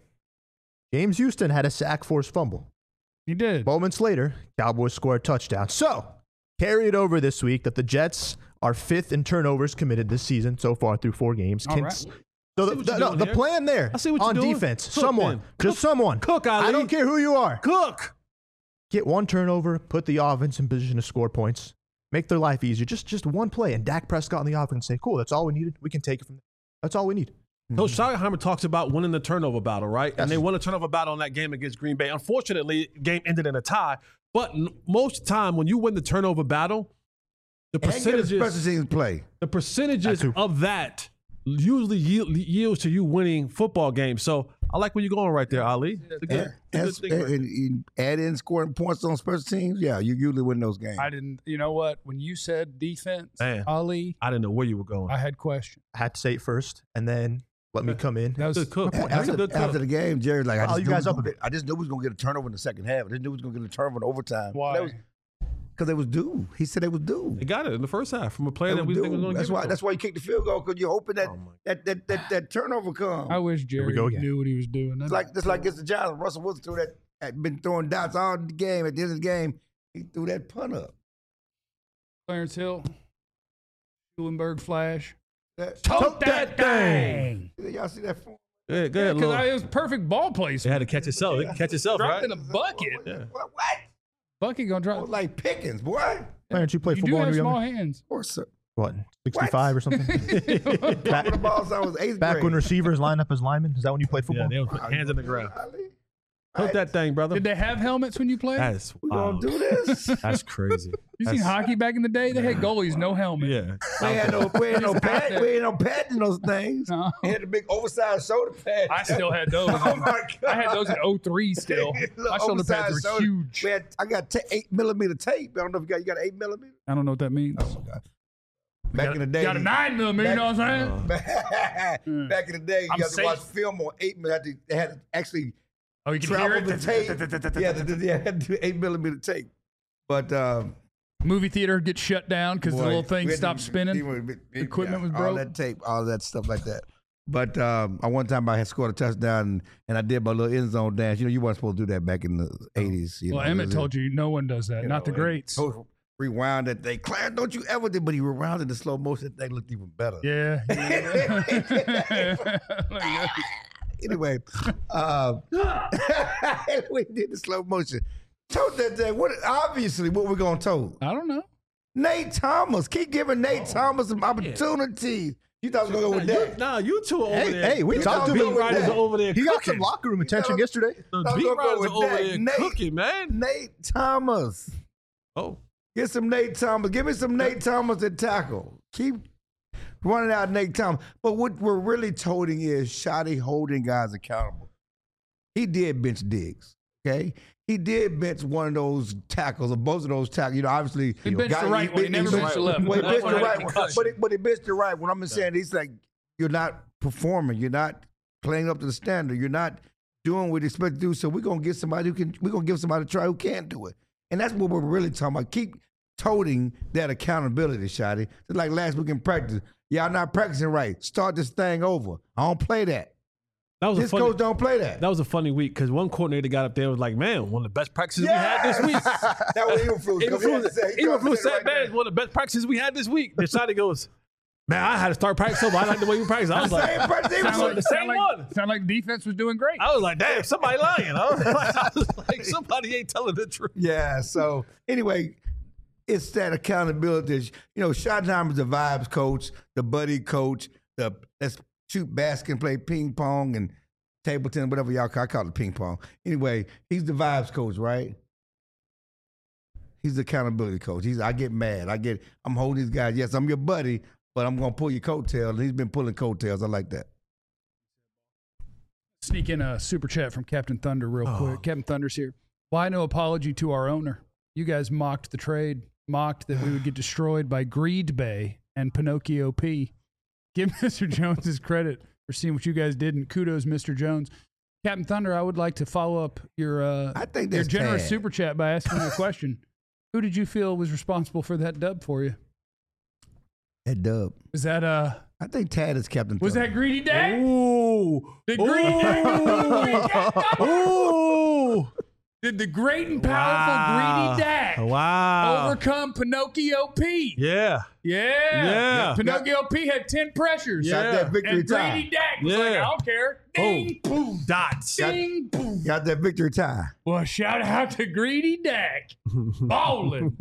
James Houston had a sack force fumble. He did. Moments later, Cowboys scored a touchdown. So, carry it over this week that the Jets are fifth in turnovers committed this season so far through four games. All Can- right. So I the, see what the, you're no, doing the here. plan there I see what on you're doing. defense, Cook someone, then. just Cook. someone. Cook, Ali. I don't care who you are. Cook. Get one turnover, put the offense in position to score points, make their life easier. Just just one play, and Dak Prescott on the offense say, cool, that's all we needed. We can take it from there. That's all we need. Coach Schottenheimer talks about winning the turnover battle, right? Yes. And they won a turnover battle in that game against Green Bay. Unfortunately, the game ended in a tie. But n- most time, when you win the turnover battle, the And get a special percentages, teams play. the percentages That too. of that usually yield, yields to you winning football games. So I like where you're going right there, Ali. It's a good, And, it's a and, good thing right and- and add in scoring points on special teams. Yeah, you usually win those games. I didn't. You know what? When you said defense, Man. Ali, I didn't know where you were going. I had questions. I had to say it first, and then let me come in. That was Good cook. That's a After, good after cook. the game, Jerry's like, I Follow just, you knew guys we up was a gonna get, I just knew we was going to get a turnover in the second half. I just knew we was going to get a turnover in overtime. Why? Because they was due. He said they was due. They got it in the first half from a player They that was we think was due. going to That's give why. it to That's why you kicked the field goal because you're hoping that Oh, my- that, that, that that turnover comes. I wish Jerry go again. knew what he was doing. It's That's like it's like against the Giants. Russell Wilson threw that. Had been throwing dots all the game. At the end of the game, he threw that punt up. Clarence Hill, Schulenberg Flash. That, Tote that thing. y'all see that? Form? Yeah, go ahead, Because Lil. it was perfect ball They placement. had to catch itself. They can catch itself, Dropped right? in a bucket. Yeah. What? what? Bucket gonna Oh, drop. like Pickens, boy. Why don't you play You do football when have you were small younger? hands. Of course, sir. what, sixty-five or something? Back, the ball since I was eighth Back grade. when receivers line up as linemen. Is that when you played Yeah, football? they would put hands in the ground. Ali, Tote that thing, brother. Did they have helmets when you played? That's we wow. gonna do this? That's crazy. You seen That's- hockey back in the day? They had goalies, no helmet. Yeah. We ain't no, we ain't no Just out pad, there. we ain't no pads in those things. No. We had the big oversized shoulder pads. I still had those. Oh my God. I had those in oh three still. Little My shoulder pads oversized were shoulder- huge. We had, I got ta- eight millimeter tape. I don't know if you got you got an eight millimeter. I don't know what that means. Oh God. Back in the day, Got a nine millimeter, you know what I'm saying? back, back in the day, you I'm had to safe. watch film on eight millimeter. They had to actually Oh, you can hear travel it? the tape. Yeah, the, the, yeah, had to do eight millimeter tape. But um, Movie theater gets shut down because the boy, little we thing had to- stopped spinning. we- we- we- Equipment was All broke. that tape, all that stuff like that. But um, I one time I had scored a touchdown and, and I did my little end zone dance. You know, you weren't supposed to do that back in the eighties. You Well, know, Emmett told you no one does that, you not the know, greats. and Coach rewound that thing. Clarence, don't you ever do? But he rewound it in slow motion. That thing looked even better. Yeah. yeah. Anyway, uh, we did the slow motion. Told that thing. What? Obviously, what we're gonna told. I don't know. Nate Thomas. Keep giving Nate Thomas some opportunities. You thought I was gonna go with that? Nah, you two are over Hey, there. hey, we You talked know, to beat beat him. writers that. are over there He got cooking. some locker room attention know- yesterday. The I was beat gonna go writers with are over that. there Nate. cooking, man. Nate Thomas. Oh, Get some Nate Thomas. Give me some Nate Thomas at tackle. Keep running out Nate Thomas. But what we're really toting is Shotty holding guys accountable. He did bench Diggs, okay? He did bench one of those tackles, or both of those tackles. You know, obviously. He benched guy- the right one. He never benched the left Well, one. he benched That's the why I right had one. concussion. But he, but he benched the right one. I'm just saying, he's like, you're not performing. You're not playing up to the standard. You're not doing what you expect to do. So we're going to get somebody who can, we're going to give somebody a try who can do it. And that's what we're really talking about. Keep toting that accountability, Shotty. Just like last week in practice. Y'all not practicing right. Start this thing over. I don't play that. that was a This funny. coach don't play that. That was a funny week because one coordinator got up there and was like, "Man, one of the best practices we had this week." that was Eberflus. Eberflus Eberflus said, "Man, one of the best practices we had this week." Then Shotty goes, "Man, I had to start practice over. I like the way you practice." I was like, Same practice. Sound like, the sound same like, one. sound like the defense was doing great. I was like, "Damn, somebody lying." I was like, I was like, somebody ain't telling the truth. Yeah. So anyway, it's that accountability. You know, Schottenheimer's the vibes coach, the buddy coach, the let's shoot basket and play ping pong and table tennis, whatever y'all call. I call it ping pong. Anyway, he's the vibes coach, right? He's the accountability coach. He's I get mad. I get I'm holding these guys. Yes, I'm your buddy, but I'm gonna pull your coattails. And he's been pulling coattails. I like that. Sneak in a super chat from Captain Thunder real Oh. quick. Captain Thunder's here. Why no apology to our owner? You guys mocked the trade, mocked that we would get destroyed by Greed Bay and Pinocchio P. Give Mister Jones his credit for seeing what you guys did, and kudos, Mister Jones. Captain Thunder, I would like to follow up your uh, I think your that's generous Tad. super chat by asking you a question. Who did you feel was responsible for that dub for you? That dub. Was that uh I think Tad is Captain. was Thunder. that Greedy Day? Ooh, Did Greedy ooh, Did the great and powerful Wow. Greedy Dak wow, overcome Pinocchio P? yeah, Yeah. Yeah. Pinocchio P had ten pressures. Got Yeah. that victory And tie. Greedy Dak was like, Yeah. I don't care. Ding, boom, dots. ding, boom. Got that victory tie. Well, shout out to Greedy Dak. Ballin'.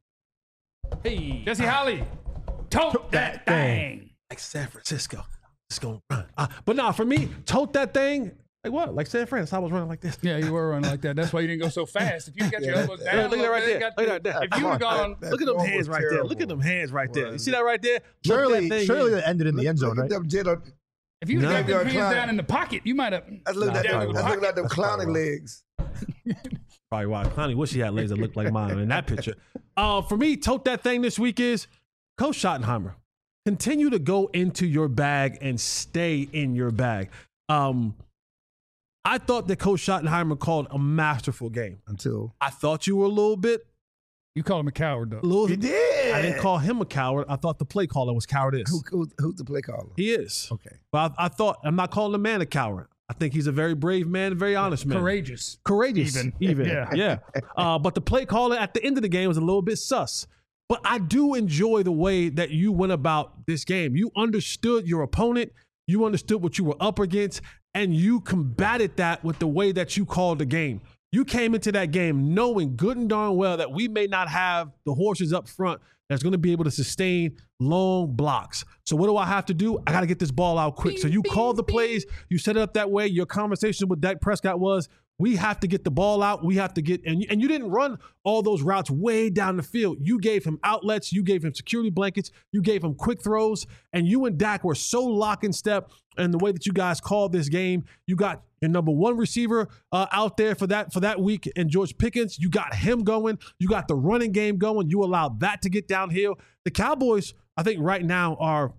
Hey, Jesse Holly, tote that thing. Like San Francisco, it's gonna run. Uh, but nah, for me, tote that thing. Like what? Like San Fran. I was running like this. Yeah, you were running like that. That's why you didn't go so fast. If you got your Yeah, elbows that- down, Look at that a right little there. bit, got Look at the- that. If you would have gone, That Look at them throw hands was right there. terrible. Look at them hands right there. Well, You see that right there? Look Surely, that thing surely in. that ended in the end zone, Look right? at them Jedi- if you would have No. got them Maybe hands our down in the pocket, you might have. That's looking Nah, at probably them. That's why. looking at them clowning legs. Probably why Clowney wish he had legs that looked like mine in that picture. Uh, for me, tote that thing this week is Coach Schottenheimer. Continue to go into your bag and stay in your bag. Um, I thought that Coach Schottenheimer called a masterful game. Until I thought you were a little bit, You call him a coward, though. a little. he did. I didn't call him a coward. I thought the play caller was cowardice. Who, who, who's the play caller? He is. Okay. But I, I thought I'm not calling the man a coward. I think he's a very brave man, a very honest man. Courageous. Courageous, Even. even, Yeah. yeah. Uh, but the play caller at the end of the game was a little bit sus. But I do enjoy the way that you went about this game. You understood your opponent, you understood what you were up against, and you combated that with the way that you called the game. You came into that game knowing good and darn well that we may not have the horses up front that's going to be able to sustain long blocks. So what do I have to do? I got to get this ball out quick. So you called the plays. You set it up that way. Your conversation with Dak Prescott was, we have to get the ball out. We have to get, and, and you didn't run all those routes way down the field. You gave him outlets. You gave him security blankets. You gave him quick throws. And you and Dak were so lock in step in the way that you guys called this game. You got your number one receiver uh, out there for that for that week, and George Pickens. You got him going. You got the running game going. You allowed that to get downhill. The Cowboys, I think, right now are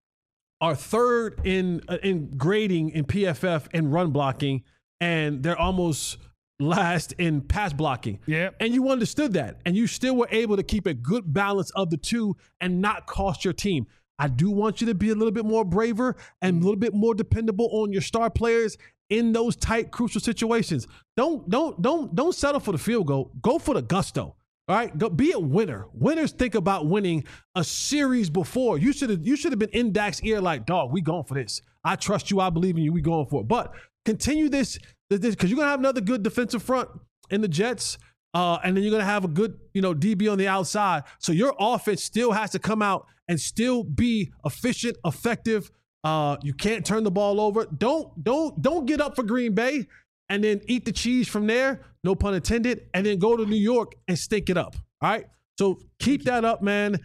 are third in uh, in grading in P F F and run blocking, and they're almost last in pass blocking. Yeah. And you understood that, and you still were able to keep a good balance of the two and not cost your team. I do want you to be a little bit more braver and a little bit more dependable on your star players in those tight, crucial situations. Don't don't don't don't settle for the field goal. Go for the gusto. All right, go be a winner. Winners think about winning a series before. You should have you should have been in Dak's ear like, dog, we going for this. I trust you. I believe in you. We going for it. But continue this this because you're gonna have another good defensive front in the Jets. Uh, and then you're going to have a good, you know, D B on the outside. So your offense still has to come out and still be efficient, effective. Uh, you can't turn the ball over. Don't, don't, don't get up for Green Bay and then eat the cheese from there. No pun intended. And then go to New York and stink it up. All right. So keep that up, man.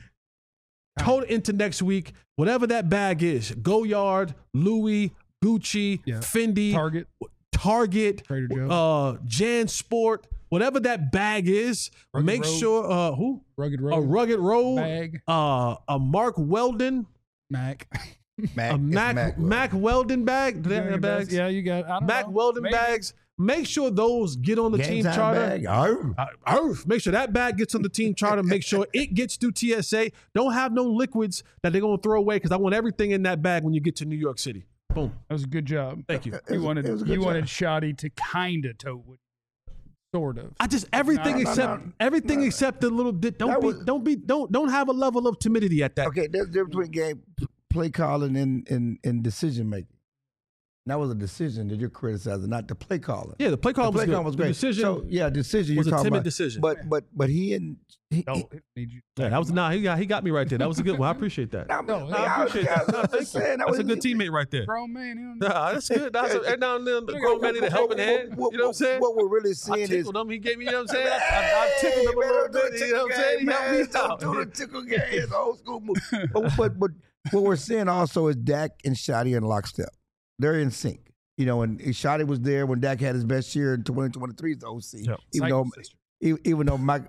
Tote into next week. Whatever that bag is, Goyard, Louis, Gucci, Yeah. Fendi, Target, Target, Trader Joe's. uh, Jan Sport. Whatever that bag is, Rugged make Road. sure uh, who Rugged Road, a Rugged Road bag, uh, a Mark Weldon, Mac. Mac, a it's Mac Mac, Mac Weldon bag. Do they have Your bags? best- Yeah, you got. I don't Mac know. Weldon Maybe. bags. Make sure those get on the Game team time charter. bag. Oh. Uh, Earth. Make sure that bag gets on the team charter. Make sure it gets through T S A. Don't have no liquids that they're gonna throw away because I want everything in that bag when you get to New York City. Boom. That was a good job. Thank you. It You was a- wanted it was a good you job. wanted Shoddy to kind of tote with, sort of. I just everything No, no, except no. everything No. except the little. Di- don't That be was- don't be don't don't have a level of timidity at that. Okay, there's a difference between game play calling and, and, and decision making. That was a decision that you're criticizing, not the play calling. Yeah, the play call the was play good. call was The great. decision so, yeah, decision was you're a talking timid about. decision. But but but he and he, No, he, it need you. Yeah, that was nah. He got he got me right there. That was a good one. I appreciate that. No, No, no, I I was appreciate that. No, just thank you. saying, that That's was a good teammate right there. Grown man. You know, Nah, that's good. That's a, every now and then the grown man need a helping hand. You know what I'm saying? What we're really I seeing is tickled him. He gave me. You know what I'm saying? I, I, I tickled him a little bit. You know what I'm saying? He helped me out. Don't do the tickle game. It's old school move. But, but but what we're seeing also is Dak and Shoddy in lockstep. They're in sync. You know, and Shoddy was there when Dak had his best year in twenty twenty-three as the O C. Yep. Even though Psycho sister. even, even though Mike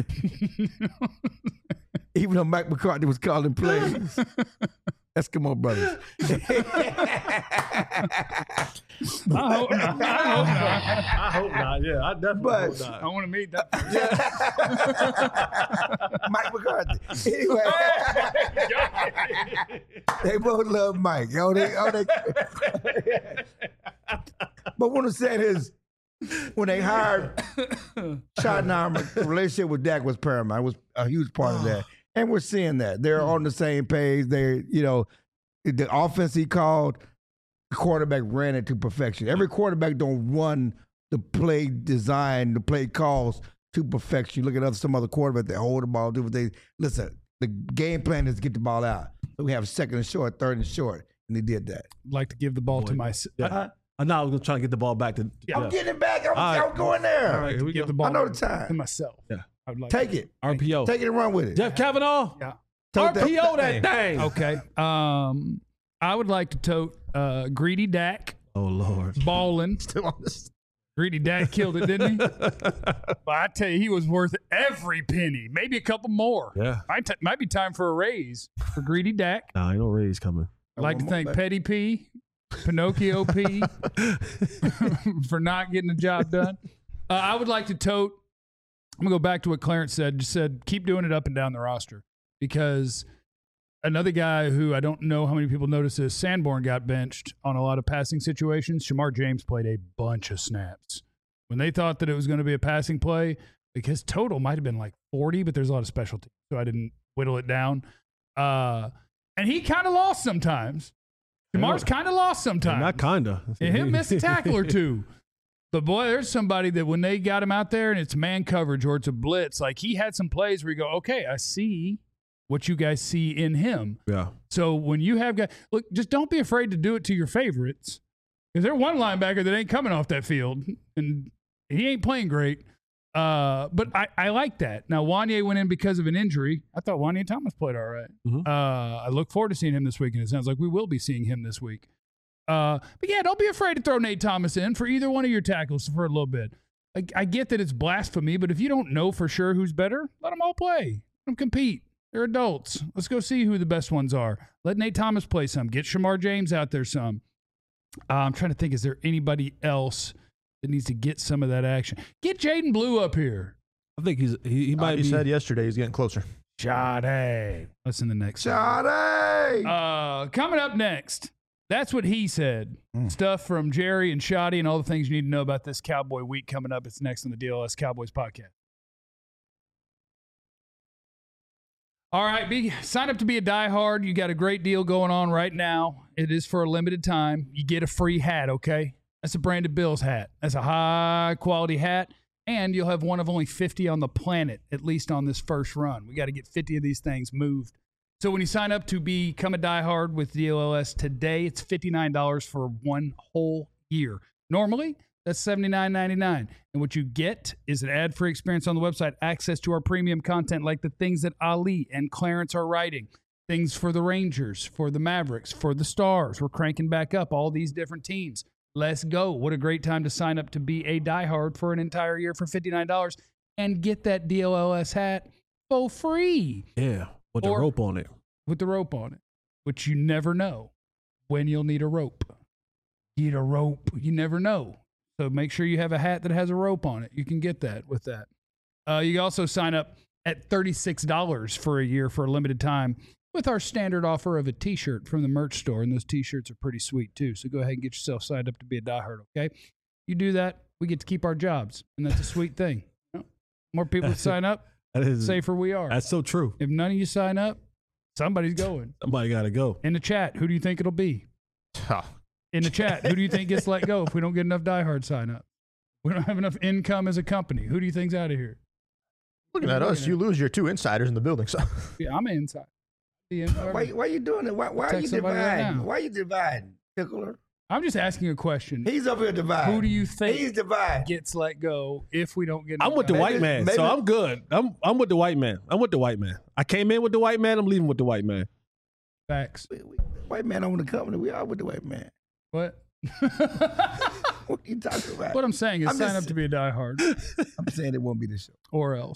even though Mike McCarthy was calling plays. Eskimo brothers. I hope not. I hope not. I hope not. Yeah, I definitely But- hope not. I want to meet that. Mike McCarthy. Anyway, they both love Mike. Oh, they, oh, they. But what I'm saying is, when they hired Schottenheimer, the relationship with Dak was paramount. It was a huge part of that. And we're seeing that. They're on the same page. They, you know, the offense he called, the quarterback ran it to perfection. Every quarterback don't run the play design, the play calls to perfection. You look at other some other quarterbacks that hold the ball, do what they listen. The game plan is to get the ball out. So we have second and short, third and short, and they did that. Like to give the ball to my. Yeah. I know I was trying to get the ball back to. Yeah. I'm getting it back. I'm, All right. I'm going there. All right, here we Give go. the ball I know to- the time. to myself. Yeah. I would like Take it. R P O. Take it and run with it. Jeff Kavanaugh. Yeah. Tote R P O that thing. Okay. Um, I would like to tote uh, Greedy Dak, Oh Lord. balling. Still on this. Greedy Dak killed it, didn't he? But I tell you, he was worth every penny, maybe a couple more. Yeah. Might, t- might be time for a raise for Greedy Dak. Nah, ain't no raise coming. I'd like to One more thank back. Petty P, Pinocchio P, for not getting the job done. Uh, I would like to tote. I'm gonna go back to what Clarence said. Just said keep doing it up and down the roster because another guy who I don't know how many people notice is Sanborn got benched on a lot of passing situations. Shamar James played a bunch of snaps when they thought that it was going to be a passing play. Like his total might have been like forty, but there's a lot of specialty, so I didn't whittle it down. Uh, and he kind of lost sometimes. Shamar's kind of lost sometimes. Not kinda. And him miss a tackle or two. But boy, there's somebody that when they got him out there and it's man coverage or it's a blitz, like he had some plays where you go, okay, I see what you guys see in him. Yeah. So when you have guys, look, just don't be afraid to do it to your favorites. Because there's one linebacker that ain't coming off that field, and he ain't playing great. Uh, but I, I like that. Now, Wanye went in because of an injury. I thought Wanye Thomas played all right. Mhm. Uh, I look forward to seeing him this week, and it sounds like we will be seeing him this week. Uh, but, yeah, don't be afraid to throw Nate Thomas in for either one of your tackles for a little bit. I, I get that it's blasphemy, but if you don't know for sure who's better, let them all play. Let them compete. They're adults. Let's go see who the best ones are. Let Nate Thomas play some. Get Shamar James out there some. Uh, I'm trying to think, is there anybody else that needs to get some of that action? Get Jaden Blue up here. I think he's he, he might He be. said yesterday he's getting closer. Sade. Listen to the next. Sade! Uh, coming up next, that's what he said. Mm. Stuff from Jerry and Shoddy and all the things you need to know about this Cowboy week coming up. It's next on the D L S Cowboys podcast. All right, be sign up to be a diehard. You got a great deal going on right now. It is for a limited time. You get a free hat, okay? That's a Brandon Bills hat. That's a high-quality hat, and you'll have one of only fifty on the planet, at least on this first run. We got to get fifty of these things moved. So when you sign up to become a diehard with D L S today, it's fifty-nine dollars for one whole year. Normally, that's seventy-nine ninety-nine. And what you get is an ad-free experience on the website, access to our premium content like the things that Ali and Clarence are writing, things for the Rangers, for the Mavericks, for the Stars. We're cranking back up all these different teams. Let's go. What a great time to sign up to be a diehard for an entire year for fifty-nine dollars and get that D L S hat for free. Yeah, with Or- the rope on it. With the rope on it, which you never know when you'll need a rope. Need a rope. You never know. So make sure you have a hat that has a rope on it. You can get that with that. Uh, you can also sign up at thirty-six dollars for a year for a limited time with our standard offer of a T-shirt from the merch store. And those T-shirts are pretty sweet, too. So go ahead and get yourself signed up to be a diehard, okay? You do that, we get to keep our jobs. And that's a sweet thing. You know, more people sign up, That is safer we are. That's so true. If none of you sign up, somebody's going. Somebody got to go. In the chat, who do you think it'll be? In the chat, who do you think gets let go if we don't get enough diehard sign up? We don't have enough income as a company. Who do you think's out of here? Looking at us, you lose your two insiders in the building. So Yeah, I'm inside. Yeah, Why, why you doing it? Why, why are you Text somebody right dividing? now. why are you dividing, Pickler? I'm just asking a question. He's up here dividing. Who do you think He's dividing. gets let go if we don't get I'm enough with the diehard? white man, maybe- so I'm good. I'm I'm with the white man. I'm with the white man. I came in with the white man. I'm leaving with the white man. Facts. We- we- White man own the company. We are with the white man. What? What are you talking about? What I'm saying is I'm sign just- up to be a diehard I'm saying it won't be the show. or else.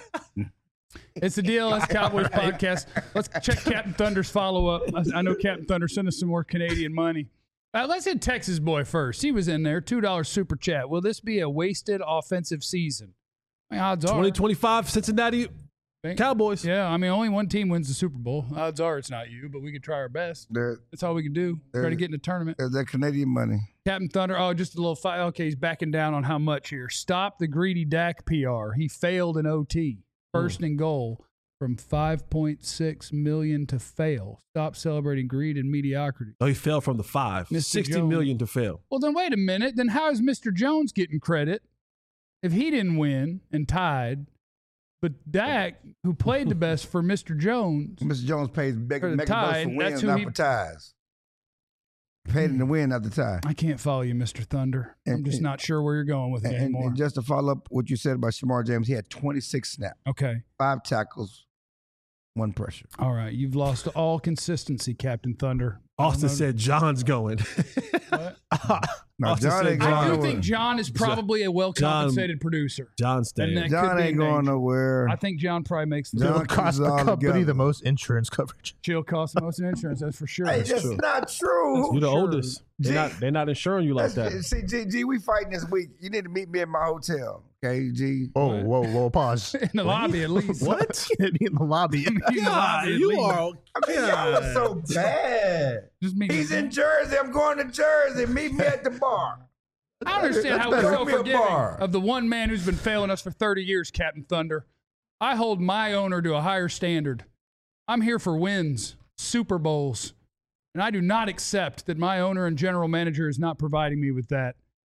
It's the D L S Cowboys podcast. Let's check Captain Thunder's follow-up. I, I know Captain Thunder sent us some more Canadian money. Uh, let's hit Texas boy first. He was in there. two dollars super chat. Will this be a wasted offensive season? I mean, odds are. twenty twenty-five Cincinnati Cowboys. Yeah, I mean, only one team wins the Super Bowl. Odds are it's not you, but we can try our best. There, That's all we can do. Try to There- get in the tournament. there's that Canadian money. Captain Thunder, oh, just a little fight. Okay, he's backing down on how much here. Stop the greedy Dak P R. He failed in O T. First and goal from five point six million to fail. Stop celebrating greed and mediocrity. Oh, he fell from the five. Mister Sixty Jones. million to fail. Well, then wait a minute. Then how is Mister Jones getting credit if he didn't win and tied? But Dak, who played the best for Mister Jones, Mister Jones pays big, For the mega bucks tie, for that's wins, who not he- for ties. Paid him to win, not the tie. I can't follow you, Mister Thunder. I'm And- just and- not sure where you're going with it And, and- anymore. and just to follow up what you said about Shamar James, he had twenty-six snaps, Okay. five tackles, one pressure. All right. You've lost all consistency, Captain Thunder. Austin I don't know- said John's going. What? No, Austin John said ain't I going do nowhere. think John is probably a well compensated producer. John's staying. And that- John could be ain't going danger. nowhere. I think John probably makes the John it'll keeps cost it the all company together. the most insurance coverage. chill cost the most in insurance. That's for sure. Hey, That's that's true. not true. You're the Sure. oldest. They're Gee. not, they're not insuring you like Let's- that. See, G, G, we fighting this week. You need to meet me at my hotel, okay, G? Oh, whoa, whoa, pause. In the lobby, at least. What? Be in the lobby. In the lobby, at you least. are. I mean, y'all are so bad. Just meet He's him. in Jersey. I'm going to Jersey. Meet me at the bar. I understand That's how we're better. so Give me a forgiving bar. of the one man who's been failing us for thirty years, Captain Thunder. I hold my owner to a higher standard. I'm here for wins, Super Bowls, and I do not accept that my owner and general manager is not providing me with that.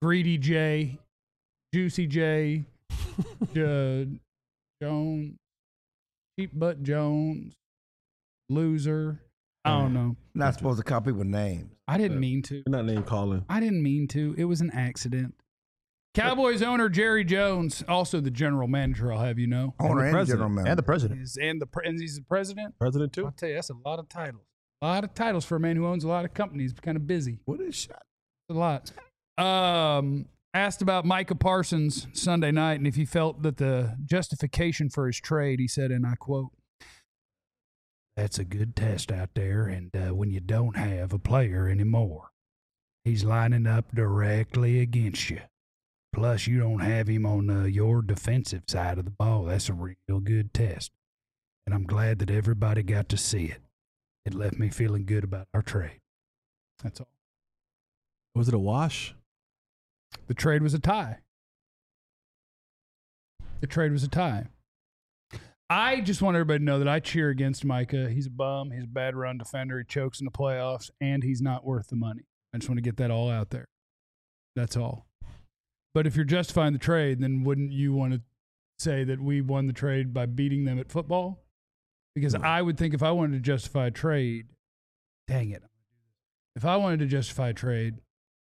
Greedy J, Juicy J, uh, Jones, Cheap Butt Jones, Loser. I don't know. Not supposed to call people names. I didn't mean to. You're not name calling. I didn't mean to. It was an accident. Cowboys owner Jerry Jones, also the general manager, I'll have you know. Owner and president. general manager. And the president. Is, and, the, pre- and he's the president. President too. I'll tell you, that's a lot of titles. A lot of titles for a man who owns a lot of companies. Kind of busy. What is shot? A lot. Um, asked about Micah Parsons Sunday night and if he felt that the justification for his trade, he said, and I quote, "That's a good test out there, and uh, when you don't have a player anymore, he's lining up directly against you. Plus, you don't have him on uh, your defensive side of the ball. That's a real good test. And I'm glad that everybody got to see it. It left me feeling good about our trade." That's all. Was it a wash? The trade was a tie. The trade was a tie. I just want everybody to know that I cheer against Micah. He's a bum. He's a bad run defender. He chokes in the playoffs, and he's not worth the money. I just want to get that all out there. That's all. But if you're justifying the trade, then wouldn't you want to say that we won the trade by beating them at football? Because no. I would think if I wanted to justify a trade, dang it. If I wanted to justify a trade,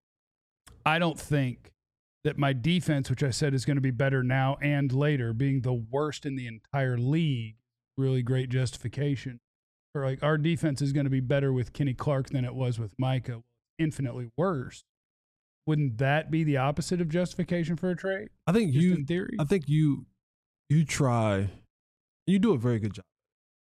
I don't think that my defense, which I said is going to be better now and later, being the worst in the entire league, really great justification. Or like our defense is going to be better with Kenny Clark than it was with Micah, infinitely worse. Wouldn't that be the opposite of justification for a trade? I think Just you. in theory. I think you. You try. You do a very good job.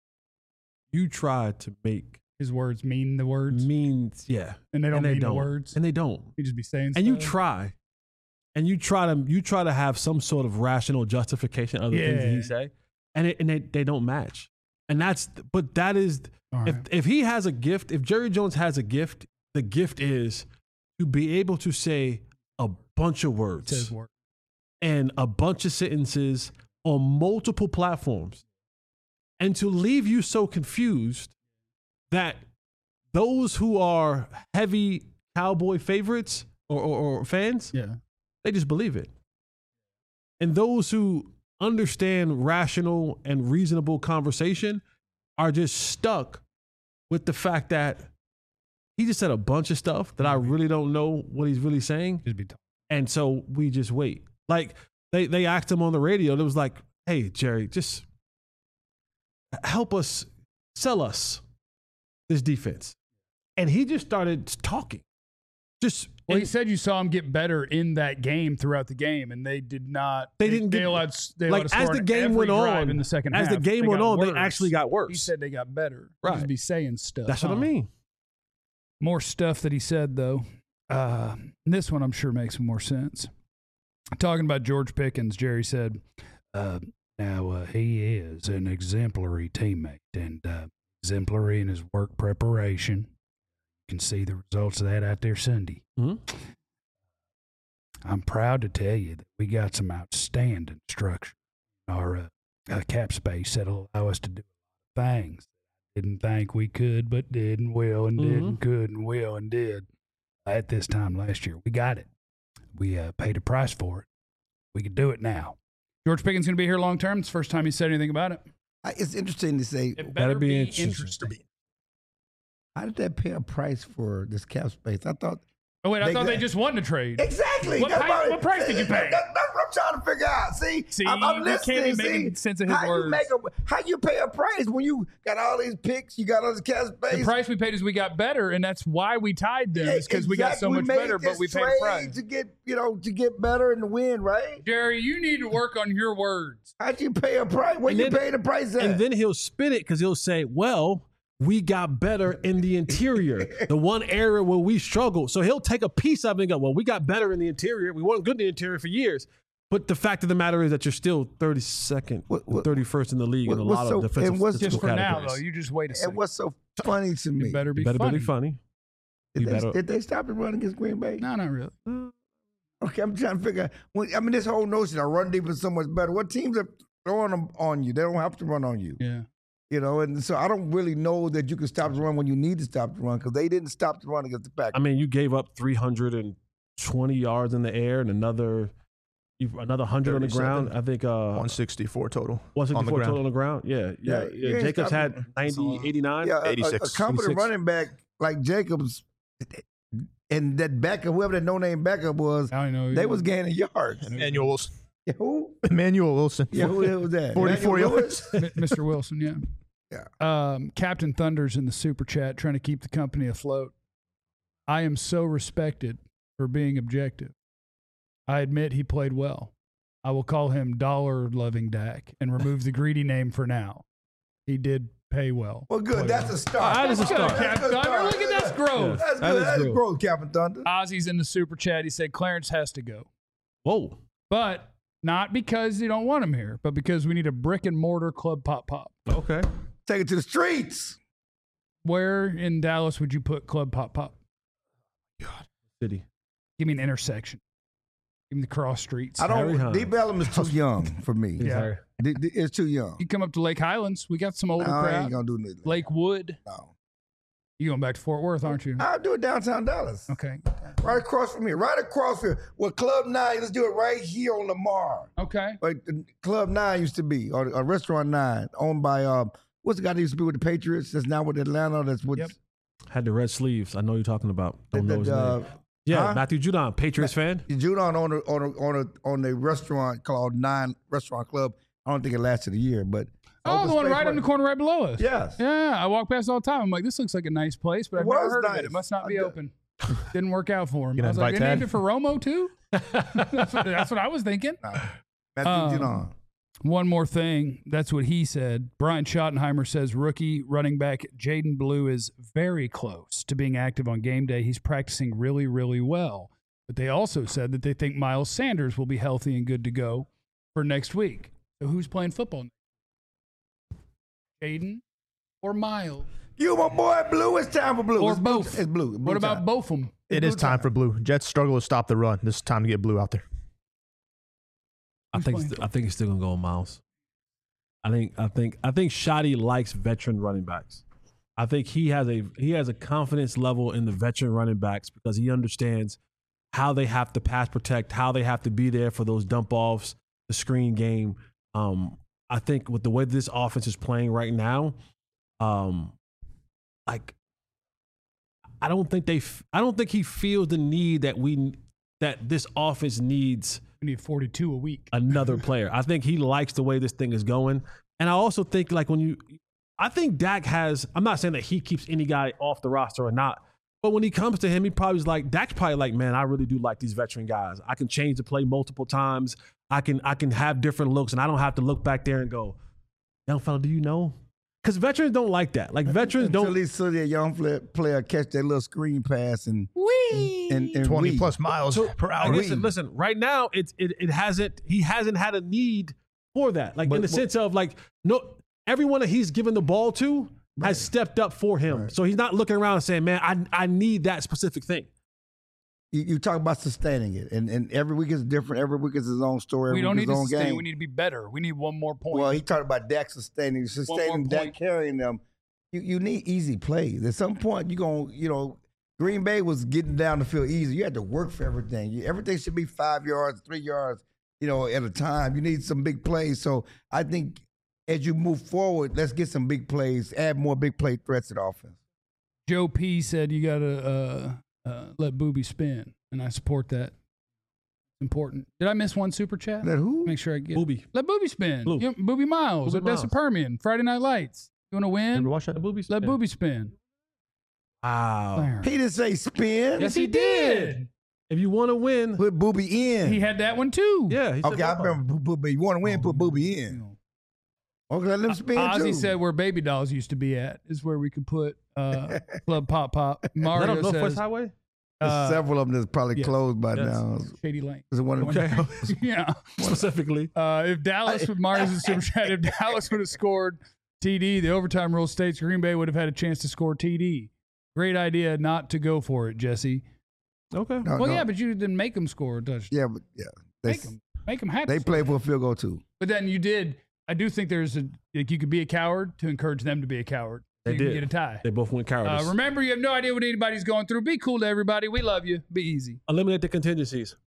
You try to make his words mean the words. Means yeah, and they don't and they mean don't. the words. And they don't. You just be saying. And stuff. you try, and you try to you try to have some sort of rational justification of the yeah. things that he say, and it, and they they don't match. And that's but that is right. if if he has a gift, if Jerry Jones has a gift, the gift is to be able to say a bunch of words Says word. and a bunch of sentences on multiple platforms, and to leave you so confused that those who are heavy Cowboy favorites or, or, or fans, yeah, they just believe it. And those who understand rational and reasonable conversation are just stuck with the fact that he just said a bunch of stuff that I really don't know what he's really saying. Just be told. And so we just wait. Like they, they asked him on the radio. It was like, "Hey, Jerry, just help us, sell us this defense." And he just started talking. Just well, he said you saw him get better in that game throughout the game, and they did not. They didn't They get allowed, they like allowed as the game went on in the second as half. the game they went on, worse. they actually got worse. He said they got better. Right. He just be saying stuff. That's what huh? I mean. More stuff that he said though. Uh, this one I'm sure makes more sense. Talking about George Pickens, Jerry said, uh, "Now uh, he is an exemplary teammate and uh, exemplary in his work preparation. You can see the results of that out there Sunday. Mm-hmm. I'm proud to tell you that we got some outstanding structure in our uh, uh, cap space that'll allow us to do a lot of things. Didn't think we could, but did and will and did Mm-hmm. and could and will and did at this time last year. We got it. We uh, paid a price for it. We could do it now." George Pickens going to be here long term. It's the first time he said anything about it. I- It's interesting to say, It better be be interesting. interesting. how did that pay a price for this cap space? I thought Oh, wait, I They thought got- they just won the trade. exactly. What That's pay- why- what price did you pay? That- that's what I'm trying to figure out. See, See, I'm, I'm you listening. can't be see, making sense of his how words. You make a, how you pay a price when you got all these picks, you got all this cap space? The price we paid is we got better, and that's why we tied them. Is because we got so Exactly. much made better, but this we paid a trade price. to get, you know, to get better and to win, right? Jerry, you need to work on your words. How'd you pay a price? Where And you then- pay the price at? And then he'll spin it because he'll say, "Well, we got better in the interior, the one area where we struggled." So he'll take a piece of it and go, "Well, we got better in the interior. We weren't good in the interior for years." But the fact of the matter is that you're still thirty-second, What- what- thirty-first in the league in a what- lot what's of so- defensive and what's- statistical Just for now, categories. though, you just wait a second. and what's so funny to me? You better be You better funny. be funny. Did you they, better- did they stop the run against Green Bay? No, not really. Okay, I'm trying to figure out. When, I mean, this whole notion of run deep is so much better. What teams are throwing them on you? They don't have to run on you. Yeah. You know, and so I don't really know that you can stop the run when you need to stop the run because they didn't stop the run against the Packers. I mean, you gave up three hundred twenty yards in the air and another another one hundred on the ground. I think uh, one sixty-four total. one sixty-four on the ground. total on the ground. Yeah, yeah. Yeah, yeah. you ain't Jacobs stopping. had ninety, eighty-nine. Yeah, a- a, a eighty-six. competent eighty-six. running back like Jacobs and that backup, whoever that no-name backup was, I don't know. they was gaining yards. Emmanuel Wilson. Yeah, who? Emmanuel Wilson. Yeah, who the hell was that? forty-four Emmanuel yards. Lewis? M- Mister Wilson, yeah. Yeah. Um, Captain Thunder's in the super chat trying to keep the company afloat. I am so respected for being objective. I admit he played well. I will call him dollar-loving Dak and remove the greedy name for now. He did pay well. Well, good. Play That's well. a start. That is a That's start. good. Captain That's a Thunder, start. look at that's growth. That's That good. is That's growth. growth, Captain Thunder. Ozzy's in the super chat. He said Clarence has to go. Whoa. But not because you don't want him here, but because we need a brick and mortar club pop pop. Okay. Take it to the streets. Where in Dallas would you put club pop pop? City. Give me an intersection. Give me the cross streets. I Harry don't. Hines. Deep Ellum is too young for me. Yeah. D- d- It's too young. You come up to Lake Highlands. We got some older No, I crowd. ain't gonna do nothing. Lake Wood. No. You going back to Fort Worth, aren't you? I'll do it downtown Dallas. Okay. Right across from here. Right across here. Well, Club Nine, let's do it right here on Lamar. Okay. Like the Club Nine used to be, or, or Restaurant Nine, owned by um, what's the guy that used to be with the Patriots? That's now with Atlanta. That's with Yep. Had the red sleeves. I know you're talking about. Don't the- know his the, uh, name. Yeah, huh? Matthew Judon, Patriots fan. Judon on a, on a, on a, on a restaurant called Nine Restaurant Club. I don't think it lasted a year, but Oh, open the one space right in the corner right below us. Yes. Yeah, I walk past all the time. I'm like, this looks like a nice place, but It I've never was heard of nice. it. It must not be I d- open. Didn't work out for him. You I gonna was like, they invite named Tad? it for Romo too? that's, what, that's what I was thinking. Matthew Um, Judon. One more thing. That's what he said. Brian Schottenheimer says rookie running back Jaden Blue is very close to being active on game day. He's practicing really, really well. But they also said that they think Miles Sanders will be healthy and good to go for next week. So who's playing football? Jaden or Miles? You my boy, Blue. It's time for Blue. Or it's blue- both. It's Blue. Blue What about time. both of them? It Blue is time for Blue. Jets struggle to stop the run. This is time to get Blue out there. I think. playing? It's, I think it's still gonna go on Miles. I think. I think. I think Shoddy likes veteran running backs. I think he has a he has a confidence level in the veteran running backs because he understands how they have to pass protect, how they have to be there for those dump offs, the screen game. Um, I think with the way this offense is playing right now, um, like I don't think they. f- I don't think he feels the need that we that this offense needs We need forty-two a week. another player. I think he likes the way this thing is going. And I also think like when you I think Dak has I'm not saying that he keeps any guy off the roster or not, but when he comes to him, he probably is like Dak's probably like, man, I really do like these veteran guys. I can change the play multiple times. I can I can have different looks and I don't have to look back there and go, young fella, do you know? Because veterans don't like that. Like veterans Until don't he saw that young fla- player catch that little screen pass and Whee! and, and twenty weave. plus miles per hour. Listen, listen. Right now, it's it, it hasn't. He hasn't had a need for that. Like But- in the but- sense of like no, everyone that he's given the ball to has stepped up for him. Right. So he's not looking around and saying, "Man, I I need that specific thing." You, you talk about sustaining it, and, and every week is different. Every week is his own story. Every We don't week need is to his own sustain. game. We need to be better. We need one more point. Well, he talked about Dak sustaining, sustaining point. Dak carrying them. You you need easy plays. At some point, you're going to, you know, Green Bay was getting down the field easy. You had to work for everything. You, everything should be five yards, three yards, you know, at a time. You need some big plays. So I think as you move forward, let's get some big plays, add more big play threats to the offense. Joe P said you got to uh, uh, let Booby spin, and I support that. Important. Did I miss one super chat? Let who? Make sure I get Booby. Let Booby spin. Blue. You know, Booby Miles, Booby Odessa Miles. Permian, Friday Night Lights. You want to win? Ever watch that? Booby. Let yeah. Booby spin. Wow. He didn't say spin. Yes, he did. If you want to win, Put Booby in. He had that one too. yeah. He said okay, I both. remember Booby. You want to win, put Booby in. Okay, let him spin Ozzy too. said where Baby Dolls used to be at is where we could put uh, Club Pop Pop. Is that Mario on Northwest says Highway? There's uh, several of them that's probably yes. closed by Yes. now. Shady Lane. Is it one of them? Okay. yeah. Specifically. Uh, if Dallas with Mario's in super chat, if Dallas would have scored T D, the overtime rule states Green Bay would have had a chance to score T D. Great idea not to go for it, Jesse. Okay. No, Well, no. yeah, but you didn't make them score a touchdown. Yeah, but yeah, they, Make them, make them happy. they play for a field goal too. But then you did. I do think there's a like you could be a coward to encourage them to be a coward. They you can did. get a tie. They both went Uh, cowardice. remember, you have no idea what anybody's going through. Be cool to everybody. We love you. Be easy. Eliminate the contingencies.